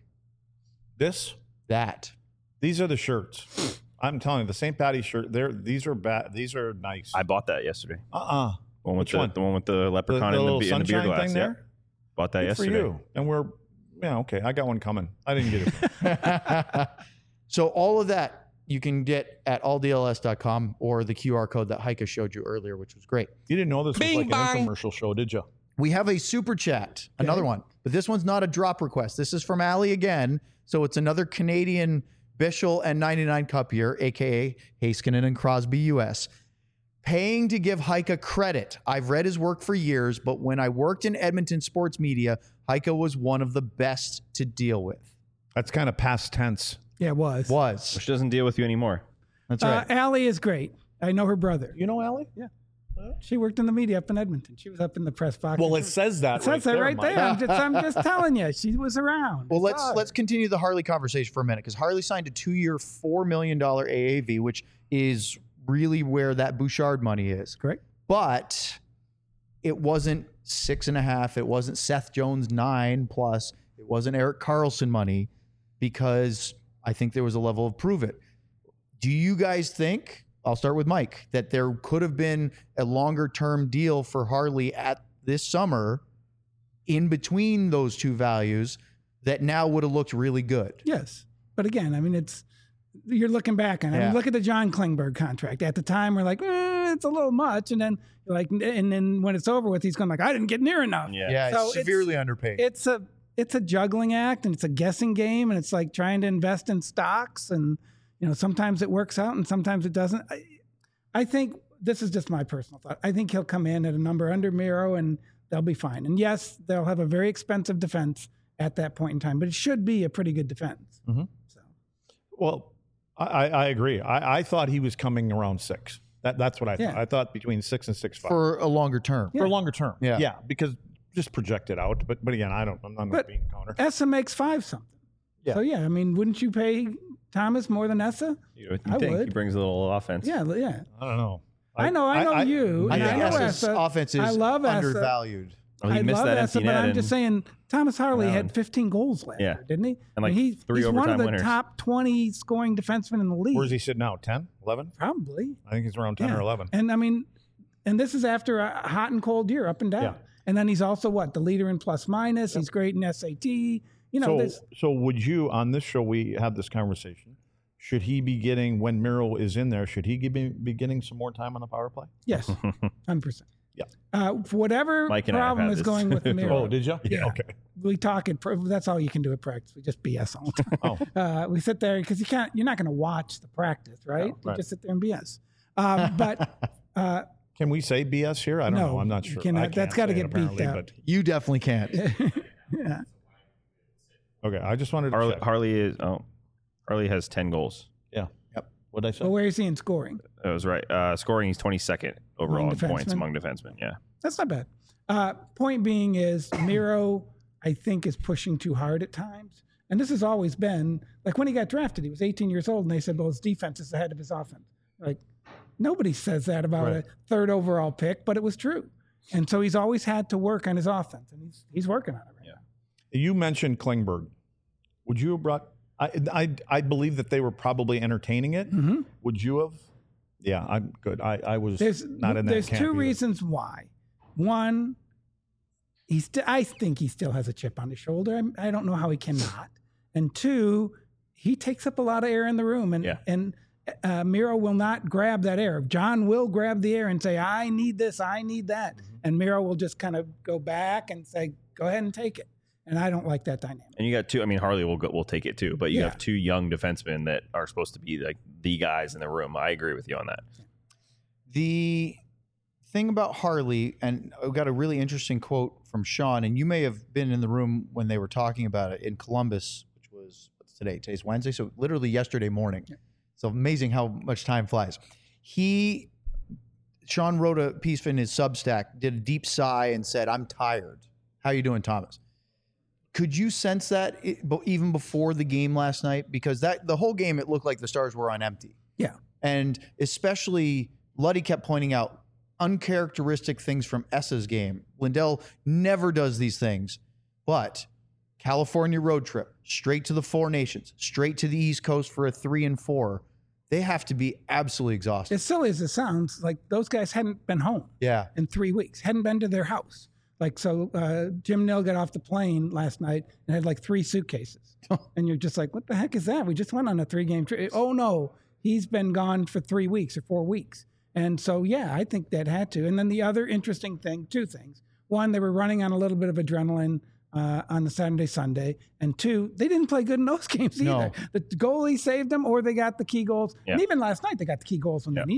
This. That. These are the shirts. I'm telling you, the Saint Patty's shirt. They're these are bad. These are nice. I bought that yesterday. Uh uh The one with Which the, one? the one with the The, leprechaun the and, little the, be- and the beer sunshine glass. thing Yeah. there. Bought that Good yesterday. for you. And we're yeah okay. I got one coming. I didn't get it. So all of that you can get at all D L S dot com or the Q R code that Heike showed you earlier, which was great. You didn't know this was Bing like bang. an infomercial show, did you? We have a super chat, another one, but this one's not a drop request. This is from Allie again. So it's another Canadian Bischel and ninety-nine Cup year, A K A Heiskanen and Crosby U S. paying to give Heika credit. I've read his work for years, but when I worked in Edmonton sports media, Heika was one of the best to deal with. That's kind of past tense. Yeah, it was. Was. Which doesn't deal with you anymore. That's Uh, right. Allie is great. I know her brother. You know, Allie? She worked in the media up in Edmonton. She was up in the press box. Well, it says that. It says that right there. I'm just, I'm just telling you, she was around. Well, I let's saw her. let's continue the Harley conversation for a minute because Harley signed a two-year, four million dollar A A V, which is really where that Bouchard money is. Correct. But it wasn't six and a half. It wasn't Seth Jones nine plus. It wasn't Eric Carlson money because I think there was a level of prove it. Do you guys think? I'll start with Mike, that there could have been a longer term deal for Harley at this summer in between those two values that now would have looked really good. Yes. But again, I mean, it's, you're looking back on it. I Yeah. mean, look at the John Klingberg contract. At the time, we're like, eh, it's a little much. And then, you're like, and then when it's over with, he's going like, I didn't get near enough. Yeah. Yeah, So it's it's- severely underpaid. It's a, it's a juggling act and it's a guessing game. And it's like trying to invest in stocks. And, you know, sometimes it works out and sometimes it doesn't. I, I think this is just my personal thought. I think he'll come in at a number under Miro and they'll be fine. And yes, they'll have a very expensive defense at that point in time, but it should be a pretty good defense. Mm-hmm. So Well, I, I I agree. I, I thought he was coming around six. That That's what I Yeah. thought. I thought between six and six five. for a longer term. For a longer term. Yeah. Yeah, because just project it out. But but again, I don't, I'm not But- being a counter. Essa makes five something. Yeah. So yeah, I mean, wouldn't you pay Thomas more than Essa? You would I think would. he brings a little offense. Yeah, yeah. I don't know. I know, I know you. I And think I know Essa's Essa. offense is I love Essa. undervalued. Well, he I missed love that Essa, empty but net I'm and, just saying Thomas Harley Yeah, had and- fifteen goals last Yeah. year, didn't he? And like he, three he's one of overtime the winners. top twenty scoring defensemen in the league. Where's he sitting now? ten, eleven? Probably. I think he's around ten Yeah. or eleven. And I mean, and this is after a hot and cold year, up and down. Yeah. And then he's also what the leader in plus minus. He's great in S A T. You know, So, there's so would you, on this show, we had this conversation. Should he be getting, when Miro is in there, should he be, be getting some more time on the power play? yes, hundred percent. Yeah. Uh, for whatever Mike and I have problem had is this. going with the Miro. Oh, did you? Yeah. Okay. We talk it. That's all you can do at practice. We just B S all the time. Oh. Uh, we sit there because you can't. You're not going to watch the practice, right? You right. just sit there and B S. Um, but uh, Can we say B S here? I don't No, know. I'm not you sure. cannot. I can't That's gotta say it get beeped apparently, out. but- You definitely can't. yeah. Okay, I just wanted to Harley, check. Harley is oh, Harley has ten goals. Yeah. Yep. What did I say? But where is he in scoring? That was right. Uh, scoring, he's twenty-second overall Among in points defensemen? among defensemen. Yeah. That's not bad. Uh, point being is Miro, I think, is pushing too hard at times. And this has always been like when he got drafted, he was eighteen years old, and they said, well, his defense is ahead of his offense. Like nobody says that about Right. a third overall pick, but it was true. And so he's always had to work on his offense, and he's he's working on it right now. You mentioned Klingberg. Would you have brought? I, I I believe that they were probably entertaining it. Mm-hmm. Would you have? Yeah, I'm good. I, I was There's not in that there's camp two either. reasons why. One, he st- I think he still has a chip on his shoulder. I, I don't know how he cannot. And two, he takes up a lot of air in the room, and Yeah. and uh, Miro will not grab that air. John will grab the air and say, "I need this, I need that," Mm-hmm. and Miro will just kind of go back and say, "Go ahead and take it." And I don't like that dynamic. And you got two. I mean, Harley will go, will take it too, but you Yeah. have two young defensemen that are supposed to be like the guys in the room. I agree with you on that. The thing about Harley, and I got a really interesting quote from Sean, and you may have been in the room when they were talking about it in Columbus, which was what's today? Today's Wednesday, so literally yesterday morning. It's amazing how much time flies. He, Sean wrote a piece in his Substack, did a deep sigh, and said, "I'm tired." How you doing, Thomas? Could you sense that i- bo- even before the game last night? Because that the whole game, it looked like the Stars were on empty. Yeah. And especially Luddy kept pointing out uncharacteristic things from Essa's game. Lindell never does these things, but California road trip, straight to the Four Nations, straight to the East Coast for a three and four. They have to be absolutely exhausted. As silly as it sounds, like those guys hadn't been home Yeah. in three weeks, hadn't been to their house. Like, so uh, Jim Nill got off the plane last night and had like three suitcases. And you're just like, what the heck is that? We just went on a three game trip. Oh, no, he's been gone for three weeks or four weeks. And so, yeah, I think that had to. And then the other interesting thing, two things. One, they were running on a little bit of adrenaline uh, on the Saturday, Sunday. And two, they didn't play good in those games either. No. The goalie saved them or they got the key goals. And Yeah. even last night, they got the key goals when Yeah. they needed them.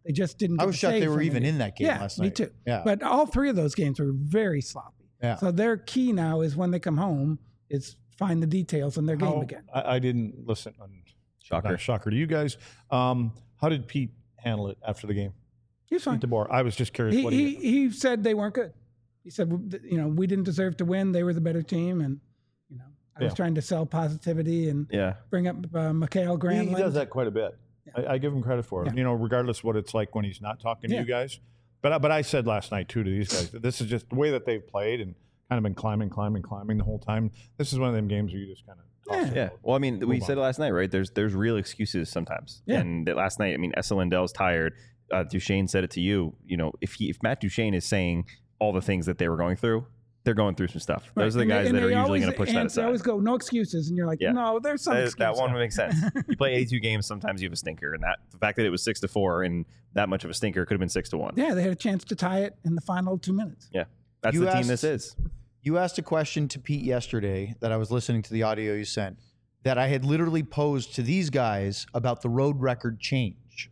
They just didn't. I get was the shocked save they were from even it. in that game yeah, last me night. too. Yeah. But all three of those games were very sloppy. Yeah. So their key now is when they come home is find the details in their game How- again. I, I didn't listen. On, Shocker. not shocker to you guys. Um, how did Pete handle it after the game? He's fine. Pete DeBoer. I was just curious. He, what he, he, he said they weren't good. He said, you know, we didn't deserve to win. They were the better team. And, you know, I was Yeah. trying to sell positivity and Yeah. bring up uh, Mikhail he, Granlund. he does that quite a bit. I, I give him credit for it. Yeah. You know, regardless of what it's like when he's not talking to Yeah. you guys. But I- but I said last night too to these guys that this is just the way that they've played and kind of been climbing, climbing, climbing the whole time. This is one of them games where you just kind of toss it Yeah. out. Well, I mean, we Move said on. it last night, right? There's there's real excuses sometimes. Yeah. And that last night, I mean, Essa Lindell's tired. Uh, Duchesne said it to you. You know, if he if Matt Duchesne is saying all the things that they were going through, they're going through some stuff. Those Right. are the And guys they- that and are they usually always going to push that answer- They aside. always go, no excuses. And you're like, Yeah. no, there's some That, excuse. that one makes sense. You play eighty-two games, sometimes you have a stinker, and that the fact that it was six to four and that much of a stinker could have been six to one. Yeah, they had a chance to tie it in the final two minutes. Yeah, that's You the team asked- this is. You asked a question to Pete yesterday that I was listening to the audio you sent that I had literally posed to these guys about the road record change.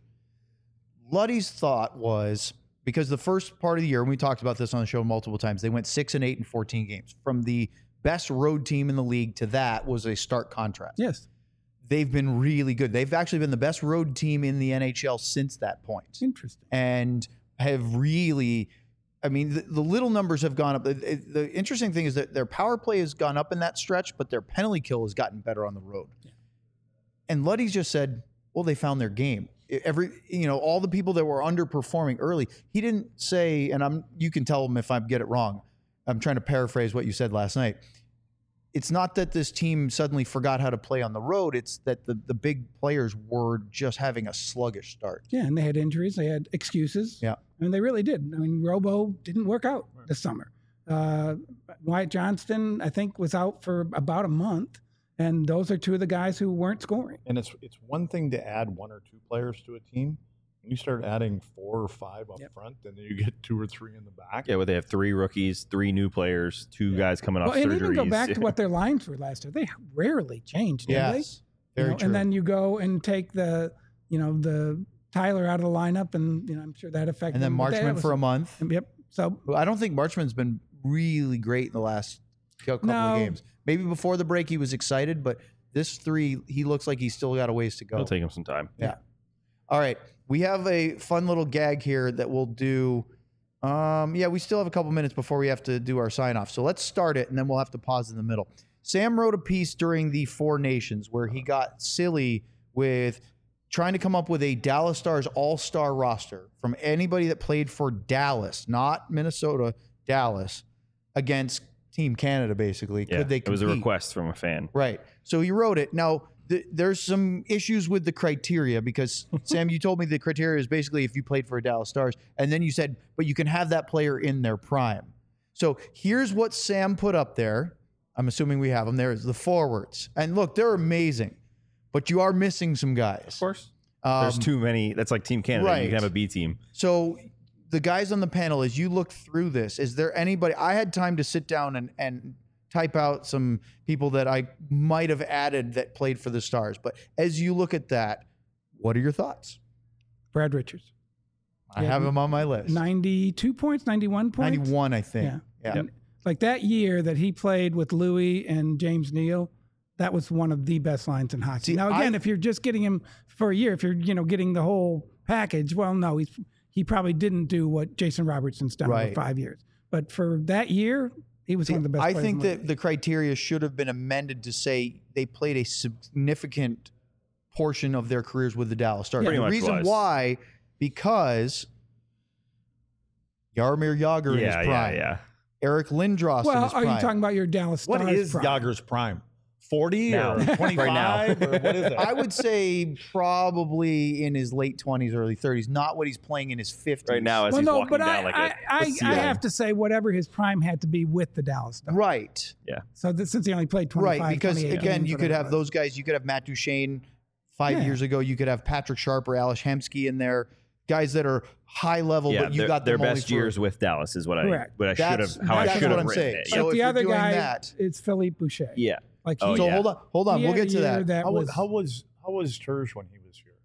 Luddy's thought was because the first part of the year, and we talked about this on the show multiple times, they went six and eight in fourteen games. From the best road team in the league to that was a stark contrast. Yes. They've been really good. They've actually been the best road team in the N H L since that point. Interesting. And have really, I mean, the, the little numbers have gone up. The, the interesting thing is that their power play has gone up in that stretch, but their penalty kill has gotten better on the road. Yeah. And Luddy's just said, well, they found their game. Every, you know, all the people that were underperforming early, he didn't say, and I'm, you can tell him if I get it wrong. I'm trying to paraphrase what you said last night. It's not that this team suddenly forgot how to play on the road. It's that the, the big players were just having a sluggish start. Yeah, and they had injuries. They had excuses. Yeah. I mean, they really did. I mean, Robo didn't work out this summer. Uh, Wyatt Johnston, I think, was out for about a month. And those are two of the guys who weren't scoring. And it's it's one thing to add one or two players to a team. When you start adding four or five up Yep. front, and then you get two or three in the back. Yeah, where they have three rookies, three new players, two guys coming off Well, and surgeries. even go back to what their lines were last year. They rarely changed, did they? Yes. You Very know, true. and then you go and take the, you know, the Tyler out of the lineup, and you know, I'm sure that affected. and then them, but that Marchman was- for a month. Yep. So Well, I don't think Marchman's been really great in the last couple No. of games. Maybe before the break he was excited, but this three, he looks like he's still got a ways to go. It'll take him some time. Yeah. All right. We have a fun little gag here that we'll do. Um, yeah, we still have a couple minutes before we have to do our sign off. So let's start it and then we'll have to pause in the middle. Sam wrote a piece during the Four Nations where he got silly with trying to come up with a Dallas Stars all-star roster from anybody that played for Dallas, not Minnesota, Dallas, against Team Canada, basically. Yeah, Could they it was a compete? request from a fan. Right. So he wrote it. Now, th- there's some issues with the criteria because, Sam, you told me the criteria is basically if you played for a Dallas Stars. And then you said, but you can have that player in their prime. So here's what Sam put up there. I'm assuming we have them there. Is the forwards. And look, they're amazing, but you are missing some guys. Of course. Um, There's too many. That's like Team Canada. right. You can have a B team. So the guys on the panel, as you look through this, is there anybody? I had time to sit down and, and type out some people that I might have added that played for the Stars. But as you look at that, what are your thoughts? Brad Richards, I Yeah, have him on my list. ninety-two points, ninety-one points. ninety-one, I think. Yeah. Yeah. And like that year that he played with Louis and James Neal, that was one of the best lines in hockey. See, now again, I- if you're just getting him for a year, if you're you know getting the whole package, well, no, he's he probably didn't do what Jason Robertson's done Right. over five years. But for that year, he was See, one of the best. I players think in the that league. the criteria should have been amended to say they played a significant portion of their careers with the Dallas Stars. Pretty the much reason was. why, because Jaromir Jagr in his Yeah, yeah, prime, yeah. Eric Lindros in well, his are prime. you talking about your Dallas Stars? What is prime? Yager's prime? forty Now. or Right now. twenty-five? Or what is it? I would say probably in his late twenties, early thirties, not what he's playing in his fifties. Right now, as Well, he's no, walking but down I, like I, a, I, a I ceiling. have to say whatever his prime had to be with the Dallas Stars. Right. So that, since he only played twenty-five, Right. Because twenty-eight again, games, you could whatever have it was. those guys. You could have Matt Duchesne five Yeah. years ago. You could have Patrick Sharp or Alice Hemsky in there. Guys that are high level, Yeah, but you their, got their them only best for- years with Dallas is what I Correct. what I should That's- have how I that's should what have I'm written saying. it. So But if the you're other doing guy that- is Philippe Boucher. Yeah. Like Oh, he, So yeah. hold on, hold on. he We'll had get a to year that. that How was, was how was how was Terge when he was here?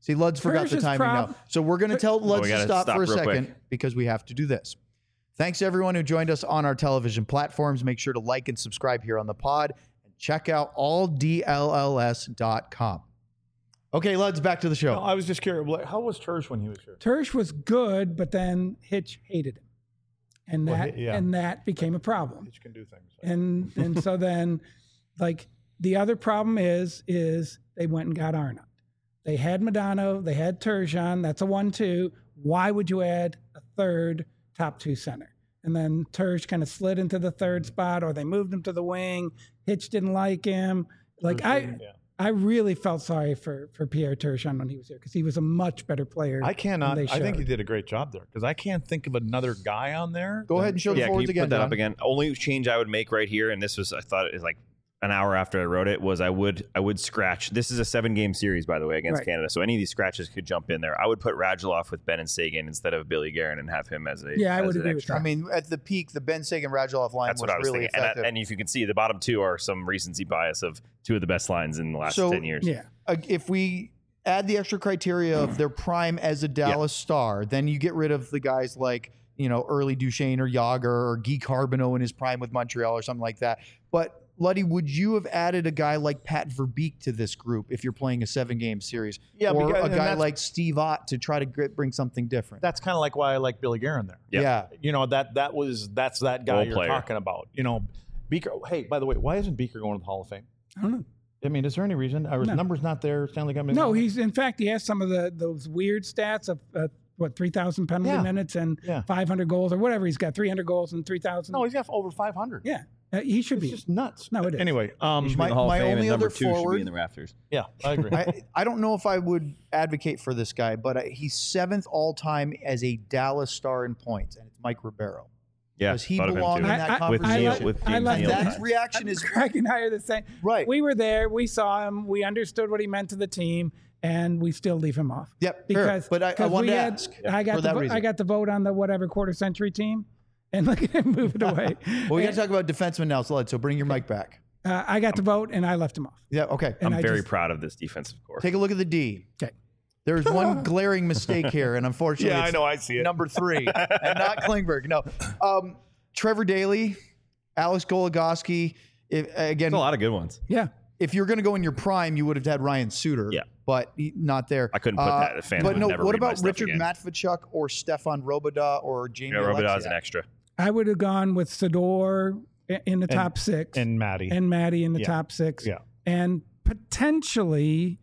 See, Luds forgot the Hirsch's timing prob- now. So we're going to tell Luds we to gotta stop, stop for a real second quick. because we have to do this. Thanks to everyone who joined us on our television platforms. Make sure to like and subscribe here on the pod. And check out all D L L S dot com. Okay, Luds, back to the show. No, I was just curious. like, How was Tersh when he was here? Tersh was good, but then Hitch hated him, and Well, that he- yeah. and that became a problem. Hitch can do things. And and so then, like the other problem is is they went and got Arnott. They had Modano, they had Turgeon. That's a one-two. Why would you add a third top two center? And then Tersh kind of slid into the third spot, or they moved him to the wing. Hitch didn't like him. Like I, Yeah. I really felt sorry for for Pierre Turgeon when he was here because he was a much better player. I cannot. than they I think he showed. did a great job there because I can't think of another guy on there. Go that- ahead and show the Yeah, can you forwards put again, that John. up again? Only change I would make right here, and this was I thought it was like an hour after I wrote it, was I would I would scratch. This is a seven game series, by the way, against Right. Canada. So any of these scratches could jump in there. I would put Radulov with Ben and Sagan instead of Billy Guerin and have him as a Yeah, I as would an agree with extra. I mean, at the peak, the Ben Sagan Radulov line That's was, what I was really thinking. And, effective. I- and if you can see, the bottom two are some recency bias of two of the best lines in the last So- ten years. Yeah. Uh, if we add the extra criteria of their prime as a Dallas star, then you get rid of the guys like, you know, early Duchesne or Yager or Guy Carbonneau in his prime with Montreal or something like that. But Luddy, would you have added a guy like Pat Verbeek to this group if you're playing a seven-game series? Yeah, or because- a and guy that's- like Steve Ott to try to gr- bring something different? That's kind of like why I like Billy Guerin there. Yeah. Yeah. You know that that was that's that guy Role you're player. talking about. You know, Beaker. Hey, by the way, why isn't Beaker going to the Hall of Fame? I don't know. I mean, is there any reason? Are his No. numbers not there? Stanley Cup. No, he's in fact he has some of the those weird stats of uh, what three thousand penalty Yeah. minutes and Yeah. five hundred goals or whatever. He's got three hundred goals and three thousand. no, he's got over five hundred. yeah, uh, he should It's be. just nuts. No, it is. Anyway, um, He should be My- in the Hall of my Fame, only and number other two should forward- be in the rafters. yeah, I agree. I, I don't know if I would advocate for this guy, but uh, he's seventh all-time as a Dallas star in points, and it's Mike Ribeiro. Yeah, Does he thought of him belong too. in I- that I- with conversation? Neil, like- with I James like Neal. that. That reaction is Craig and I are the same. right. We were there. We saw him. We understood what he meant to the team, and we still leave him off. Yep, fair. Because But I- I 'cause wanted we to had- ask I got for the that vo- reason. I got the vote on the whatever quarter century team, and look at him move it away. Well, we got to talk about defensemen now, so let's- so bring your mic back. Uh, I got the vote, and I left him off. Yeah, okay. And I'm I very just- proud of this defensive core. Take a look at the D. Okay. There's one glaring mistake here, and unfortunately, Yeah, I it's know, I see it. number three, and not Klingberg. No, um, Trevor Daley, Alex Goligoski. If, again, There's a lot of good ones. Yeah. if you're going to go in your prime, you would have had Ryan Suter. Yeah. but he, not there. I couldn't put Uh, that. The fans But would no, never what read my about stuff Richard again. Matvichuk or Stefan Robidas or Jamie Yeah, Robidas is Alexiak? an extra. I would have gone with Sador i- in the And- top six and, and Maddie. Maddie in the Yeah. top six. Yeah. And potentially,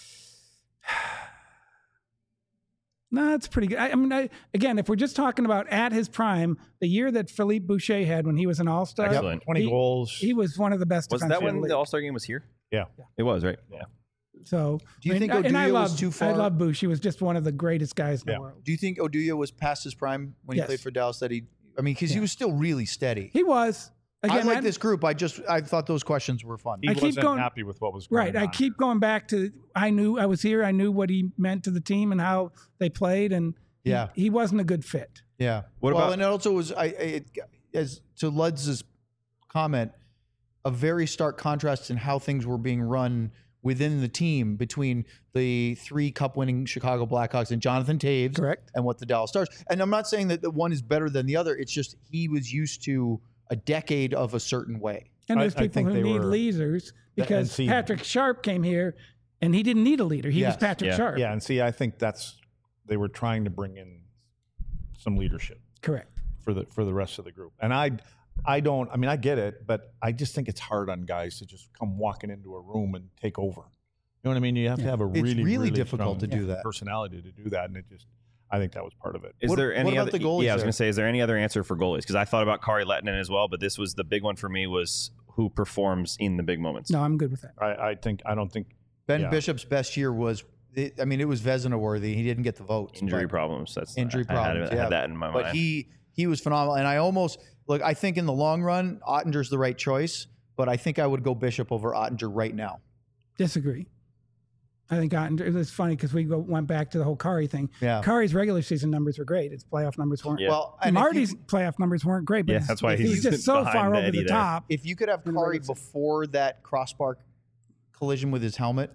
no, it's pretty good. I, I mean, I, again, if we're just talking about at his prime, the year that Philippe Boucher had when he was an All-Star, Excellent. twenty He- goals. he was one of the best. Was defensemen that in when the the league. All Star game was here? yeah. It was, right? Yeah. So, Do you I mean, think and I Oduya was love, too far? I love Boucher. He was just one of the greatest guys in Yeah. the world. Do you think Oduya was past his prime when he Yes. played for Dallas? That he, I mean, because he Yeah. was still really steady. He was. Again, I like I- this group. I just I thought those questions were fun. He I keep wasn't going- happy with what was going Right. on. I keep going back to I knew I was here. I knew what he meant to the team and how they played, and he- Yeah. he, wasn't a good fit. Yeah. What well, about- and it also was I it, as to Ludz's comment, a very stark contrast in how things were being run within the team between the three cup-winning Chicago Blackhawks and Jonathan Taves, Correct. and what the Dallas Stars. And I'm not saying that the one is better than the other. It's just he was used to a decade of a certain way. And I- there's I people think who they need were- leaders because see- Patrick Sharp came here and he didn't need a leader. He Yes. was Patrick Yeah. Sharp. Yeah, and see, I think that's they were trying to bring in some leadership Correct. for the for the rest of the group. And I I don't I mean I get it, but I just think it's hard on guys to just come walking into a room and take over. You know what I mean? You have Yeah. to have a It's really really difficult strong to do that. personality to do that, and it just I think that was part of it. Is What- there what any about other? the goalies yeah, I was there? going to say, is there any other answer for goalies? Because I thought about Kari Lehtinen as well, but this was the big one for me. Was who performs in the big moments? No, I'm good with that. I, I think I don't think Ben Yeah. Bishop's best year was, I mean, it was Vezina worthy. He didn't get the votes. Injury but- problems. That's Injury I, I had, problems, I had yeah. that in my But mind. he he was phenomenal, and I almost look. I think in the long run, Ottinger's the right choice, but I think I would go Bishop over Ottinger right now. Disagree. I think Ottinger, it's funny because we go, went back to the whole Kari thing. Yeah. Kari's regular season numbers were great. His playoff numbers weren't. Yeah. Well, and if Marty's you, playoff numbers weren't great, but Yeah, his- that's why he was he's just so behind far over Eddie the there. top. if you could have In the Kari regular season. before that crossbar collision with his helmet,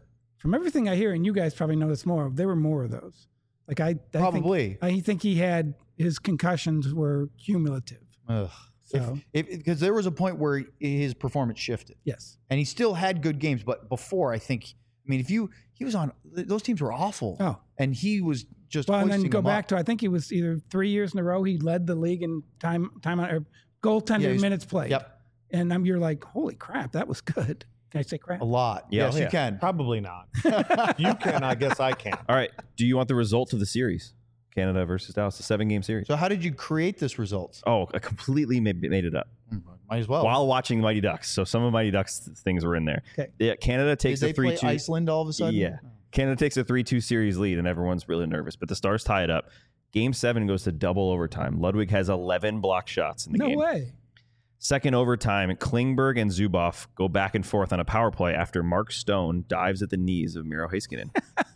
from everything I hear, and you guys probably know this more, there were more of those. Like I, I Probably. think, I think he had his concussions were cumulative. Ugh. So Because there was a point where his performance shifted, yes, and he still had good games. But before, I think, I mean, if you he was on those teams were awful. Oh. and he was just well, and then hoisting go them back up. to I think he was either three years in a row he led the league in time time on or goaltender Yeah, he's- minutes played. Yep, And I'm you're like, holy crap, that was good. Can I say crap? a lot. Yeah, yes, yeah. you can. Probably not. You can, I guess I can. All right. Do you want the result of the series? Canada versus Dallas, a seven game series. So how did you create this result? Oh, I completely made, made it up Might as well. while watching Mighty Ducks. So some of Mighty Ducks th- things were in there. Okay. Yeah, Canada Did takes they a three play two. Iceland all of a sudden? Yeah. Canada takes a three two series lead, and everyone's really nervous. But the Stars tie it up. Game seven goes to double overtime. Ludwig has eleven block shots in the No game. way. Second overtime, Klingberg and Zuboff go back and forth on a power play after Mark Stone dives at the knees of Miro Heiskanen.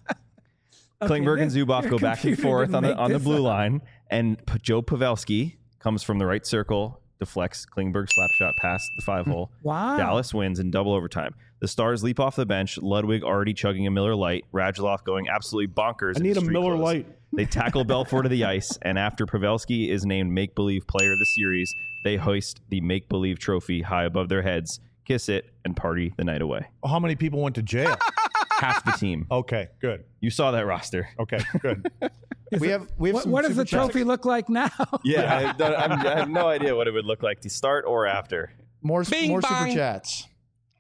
Okay, Klingberg and this- Zuboff your go back and computer forth didn't on the make on the this blue up. line, and P- Joe Pavelski comes from the right circle, deflects Klingberg's slap shot past the five hole. Wow. Dallas wins in double overtime. The Stars leap off the bench. Ludwig already chugging a Miller Lite. Radulov going absolutely bonkers. I in need his a street Miller clothes. Lite. They tackle Belfort to the ice, and after Pavelski is named Make Believe Player of the Series, they hoist the Make Believe trophy high above their heads, kiss it, and party the night away. How many people went to jail? Half the team. Okay, good. You saw that roster. Okay, good. we have we have What, some what does the super chats. trophy look like now? Yeah, I, I'm- I have no idea what it would look like to start or after. More, Bing more super bong. chats.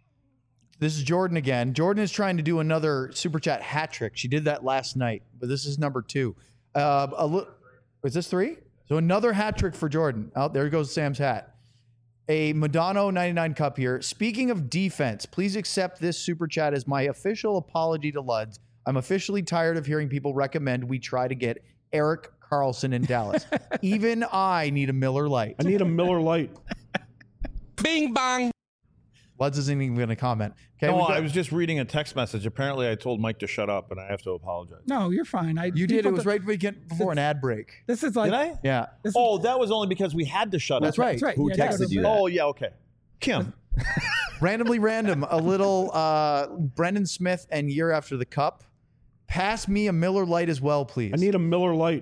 This is Jordan again. Jordan is trying to do another super chat hat trick. She did that last night, but this is number two. Uh, a li- is this three? So another hat trick for Jordan. Oh, there goes Sam's hat. A Madonna ninety-nine cup here. Speaking of defense, please accept this super chat as my official apology to Luds. I'm officially tired of hearing people recommend we try to get Eric Carlson in Dallas. Even I need a Miller Lite. I need a Miller Lite. Bing bong. Luds isn't even going to comment. Okay, No, we've got- I was just reading a text message. Apparently, I told Mike to shut up, and I have to apologize. No, you're fine. I, You did. people It was th- right weekend before an ad break. This is like Did I? Yeah. This is, Oh, that was only because we had to shut That's up. right. that's right. Who Yeah, texted that's you right. that? Oh, yeah, okay. Kim. Randomly random. A little uh, Brendan Smith and Year After the Cup. Pass me a Miller Lite as well, please. I need a Miller Lite.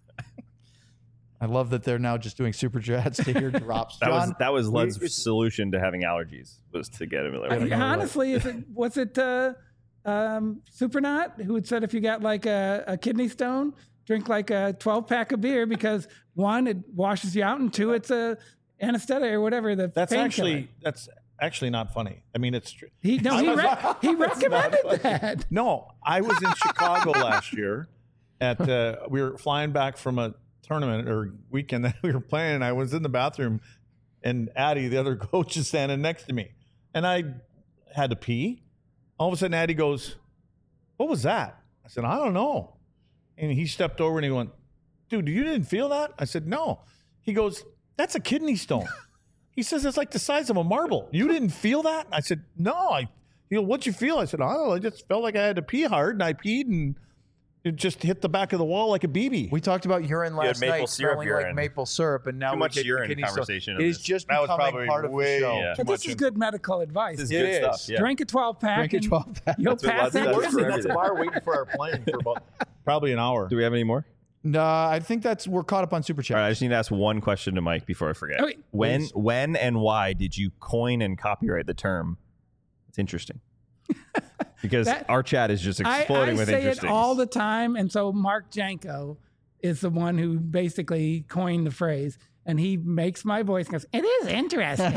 I love that they're now just doing super chats to hear drops. That was John, that was Lud's we- solution to having allergies was to get a Miller I Lite. mean, honestly, is it was it uh, um, Supernaut who had said if you got like a, a kidney stone, drink like a twelve pack of beer because one, it washes you out, and two, it's a anesthetic or whatever. The That's painkiller. actually that's actually not funny. I mean, it's true. he no he, re- he recommended that. No, I was in Chicago last year. At uh, we were flying back from a tournament or weekend that we were playing. And I was in the bathroom, and Addie, the other coach, is standing next to me, and I had to pee. All of a sudden, Addie goes, "What was that?" I said, "I don't know." And he stepped over and he went, "Dude, you didn't feel that?" I said, "No." He goes, "That's a kidney stone." He says, "It's like the size of a marble. You didn't feel that?" I said, "No." I, he goes, "What'd you feel?" I said, "I don't know. I just felt like I had to pee hard, and I peed, and it just hit the back of the wall like a B B." We talked about urine had last maple night, syrup smelling urine. like maple syrup, and now Too we much get urine kidney stone. conversation It on is this. just That was becoming probably part of way- the show. Yeah. But this is good medical advice. This is It good is. stuff. Yeah. Drink a twelve pack. Drink a and twelve pack. You'll That's what pass Lud that does kidney for stone. everything. bar waiting for our plane for about probably an hour. Do we have any more? No, I think that's we're caught up on super chat. All right, I just need to ask one question to Mike before I forget. Okay, when, please. when, and why did you coin and copyright the term? It's interesting because That- our chat is just I, exploding I with say it interesting. all the time, and so Mark Janko is the one who basically coined the phrase, and he makes my voice and goes, "It is interesting."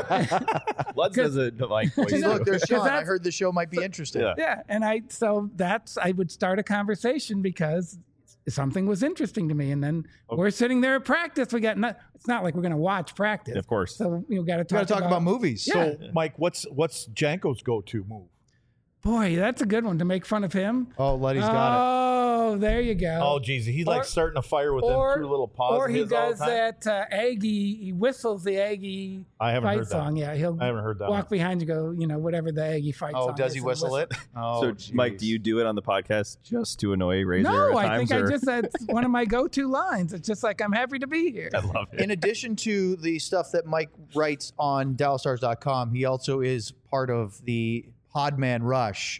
Lutz does a like voice. Hey, too. look, there's Sean. I that's- heard the show might be interesting. Yeah. Yeah, and I so that's I would start a conversation because something was interesting to me, and then we're sitting there at practice. We got not. It's not like we're going to watch practice, Of course. So you got to We talk, got to talk about, movies. Yeah. So, Mike, what's what's Janko's go-to move? Boy, that's a good one to make fun of him. Oh, Letty's got Oh, there you go. Oh, geez, he's like Or- starting a fire with or- them two little paws. Or of he his all the does time. that uh, Aggie. He whistles the Aggie I haven't fight heard that. song. Yeah, he'll I haven't heard that walk one. behind you, go, you know, whatever the Aggie fight it. Oh, song does is, he and whistle it? Oh, So, Mike, jeez. do you do it on the podcast just to annoy Razor? No, at I think times, I or- just that's one of my go-to lines. It's just like I'm happy to be here. I love it. In addition to the stuff that Mike writes on Dallas Stars dot com, he also is part of the Podman Rush,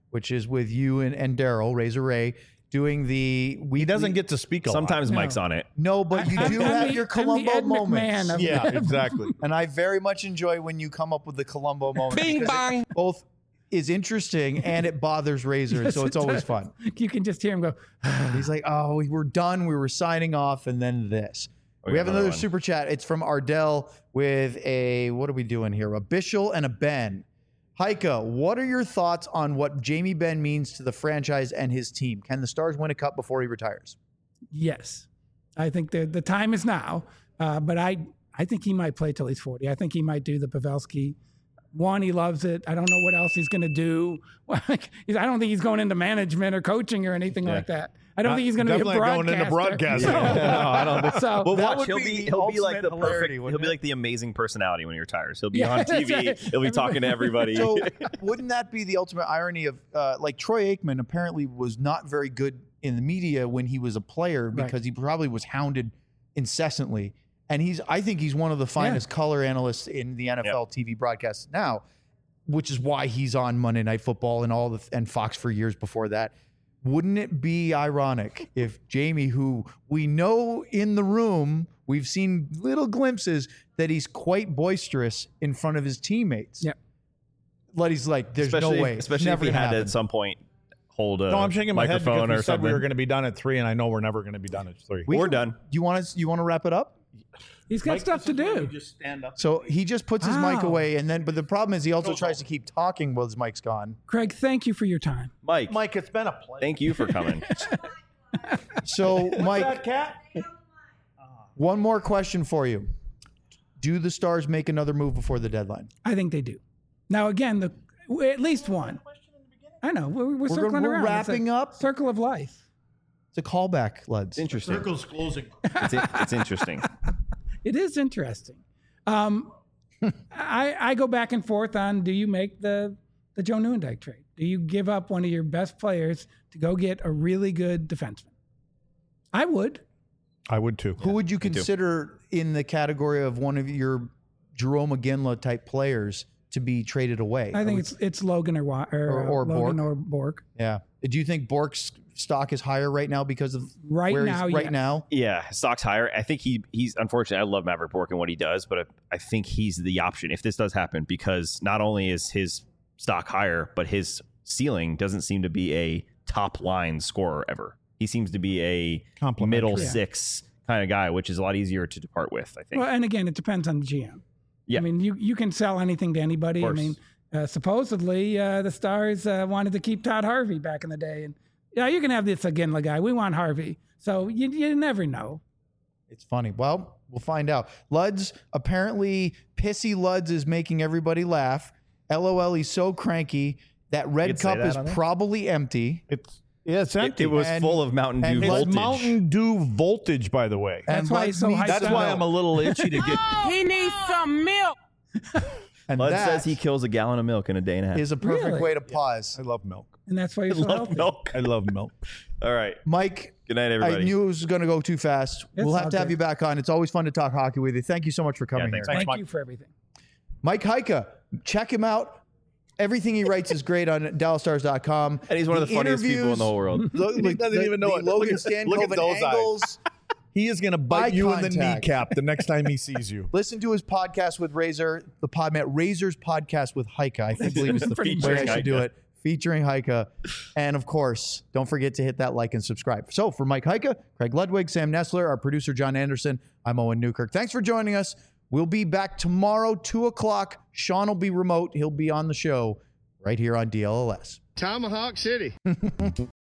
which is with you and, and Daryl, Razor Ray, doing the we He doesn't get to speak a Sometimes No. Mike's on it. no, but you I- do I'm have the- your I'm the Columbo Ed McMahon moments. of- lot. Yeah, exactly. And I very much enjoy when you come up with the Columbo moments. Bing because bang. it both is interesting and it bothers Razor, Yes, so it's it always does. fun. You can just hear him go. He's like, "Oh, we were done. We were signing off, and then this." We we got have another another one. super chat. It's from Ardell with a what are we doing here? A Bishel and a Ben. Heike, what are your thoughts on what Jamie Benn means to the franchise and his team? Can the Stars win a cup before he retires? Yes, I think the the time is now. Uh, but I I think he might play till he's forty. I think he might do the Pavelski. One, he loves it. I don't know what else he's going to do. Like, I don't think he's going into management or coaching or anything Yeah. like that. I don't Not- think he's going to be a definitely going into broadcaster. broadcasting. So- no, I don't think So Well, that watch. would He'll be be the he'll be like ultimate the perfect. hilarity, He'll wouldn't be it? like the amazing personality when he retires. He'll be Yeah, on that's T V. right. He'll be talking to everybody. So wouldn't that be the ultimate irony of uh, like Troy Aikman apparently was not very good in the media when he was a player because Right. he probably was hounded incessantly. And he's I think he's one of the finest color analysts in the N F L T V broadcasts now, which is why he's on Monday Night Football and all the and Fox for years before that. Wouldn't it be ironic if Jamie, who we know in the room, we've seen little glimpses that he's quite boisterous in front of his teammates. Yeah. But he's like, there's especially no way. especially Never if he gonna had to happen. at some point hold a No, I'm shaking my head microphone because we or said something. we were going to be done at three, and I know we're never going to be done at three. We We're can- done. You want us? You want to wrap it up? He's got stuff to do. Just stand up. So he just puts his mic Wow. away, and then, but the problem is he also tries to keep talking while his mic's gone. Craig, thank you for your time. Mike, Mike, it's been a pleasure. thank you for coming. So, Mike, cat? one more question for you: do the Stars make another move before the deadline? I think they do. Now, again, the at least one. I know we're, we're circling we're around. It's a wrapping up. Circle of life. It's a callback, Luds. It's interesting. Circle's closing. It's, in- it's interesting. It is interesting. Um, I I go back and forth on: do you make the the Joe Nieuwendyk trade? Do you give up one of your best players to go get a really good defenseman? I would. I would too. Who would you too. consider in the category of one of your Jerome McGinley type players to be traded away? I think it's it's Logan or Wa- or, Or- uh, or Logan Bork. or Bork. Yeah. Do you think Bork's stock is higher right now because of Right where now, he's right yes. now? Yeah, stock's higher. I think he he's unfortunately. I love Maverick Bork and what he does, but I, I think he's the option if this does happen because not only is his stock higher, but his ceiling doesn't seem to be a top line scorer ever. He seems to be a Complimentary. middle Yeah. six kind of guy, which is a lot easier to depart with. I think. Well, and again, it depends on the G M. Yeah. I mean, you you can sell anything to anybody. I course. mean, uh, supposedly uh, the Stars uh, wanted to keep Todd Harvey back in the day, and yeah, you can have this Aginla guy. We want Harvey, so you you never know. It's funny. Well, we'll find out. Luds, apparently Pissy Luds is making everybody laugh. LOL, he's so cranky. That red could say cup that is on there? probably empty. It's yeah, it's It, empty. it was And- full of Mountain Dew and it's voltage. Mountain Dew voltage, by the way. That's And why Luds he's so needs high to That's That's why know. I'm a little itchy to get. He needs some milk. And Bud that says he kills a gallon of milk in a day and a half. is a perfect Really? way to pause. I love milk. And that's why I you're so love healthy. milk. I love milk. All right. Mike, Good night, I everybody. knew it was going to go too fast. It's we'll have all to have good. you back on. It's always fun to talk hockey with you. Thank you so much for coming thanks, here. Thank Mike. you for everything. Mike Heike, check him out. Everything he writes is great on Dallas Stars dot com. and he's one of the funniest people in the whole world. Look, He doesn't even know the it. Logan Look at- look at Stankoven those eyes. angles. He is going to bite Eye you in the contact. kneecap the next time he sees you. Listen to his podcast with Razor, the Podmat Razor's podcast with Heike. I think believe it's the way Featuring I should do Heike. it. Featuring Heike. And of course, don't forget to hit that like and subscribe. So for Mike Heike, Craig Ludwig, Sam Nestler, our producer John Anderson, I'm Owen Newkirk. Thanks for joining us. We'll be back tomorrow, two o'clock. Sean will be remote. He'll be on the show right here on D L L S. Tomahawk City.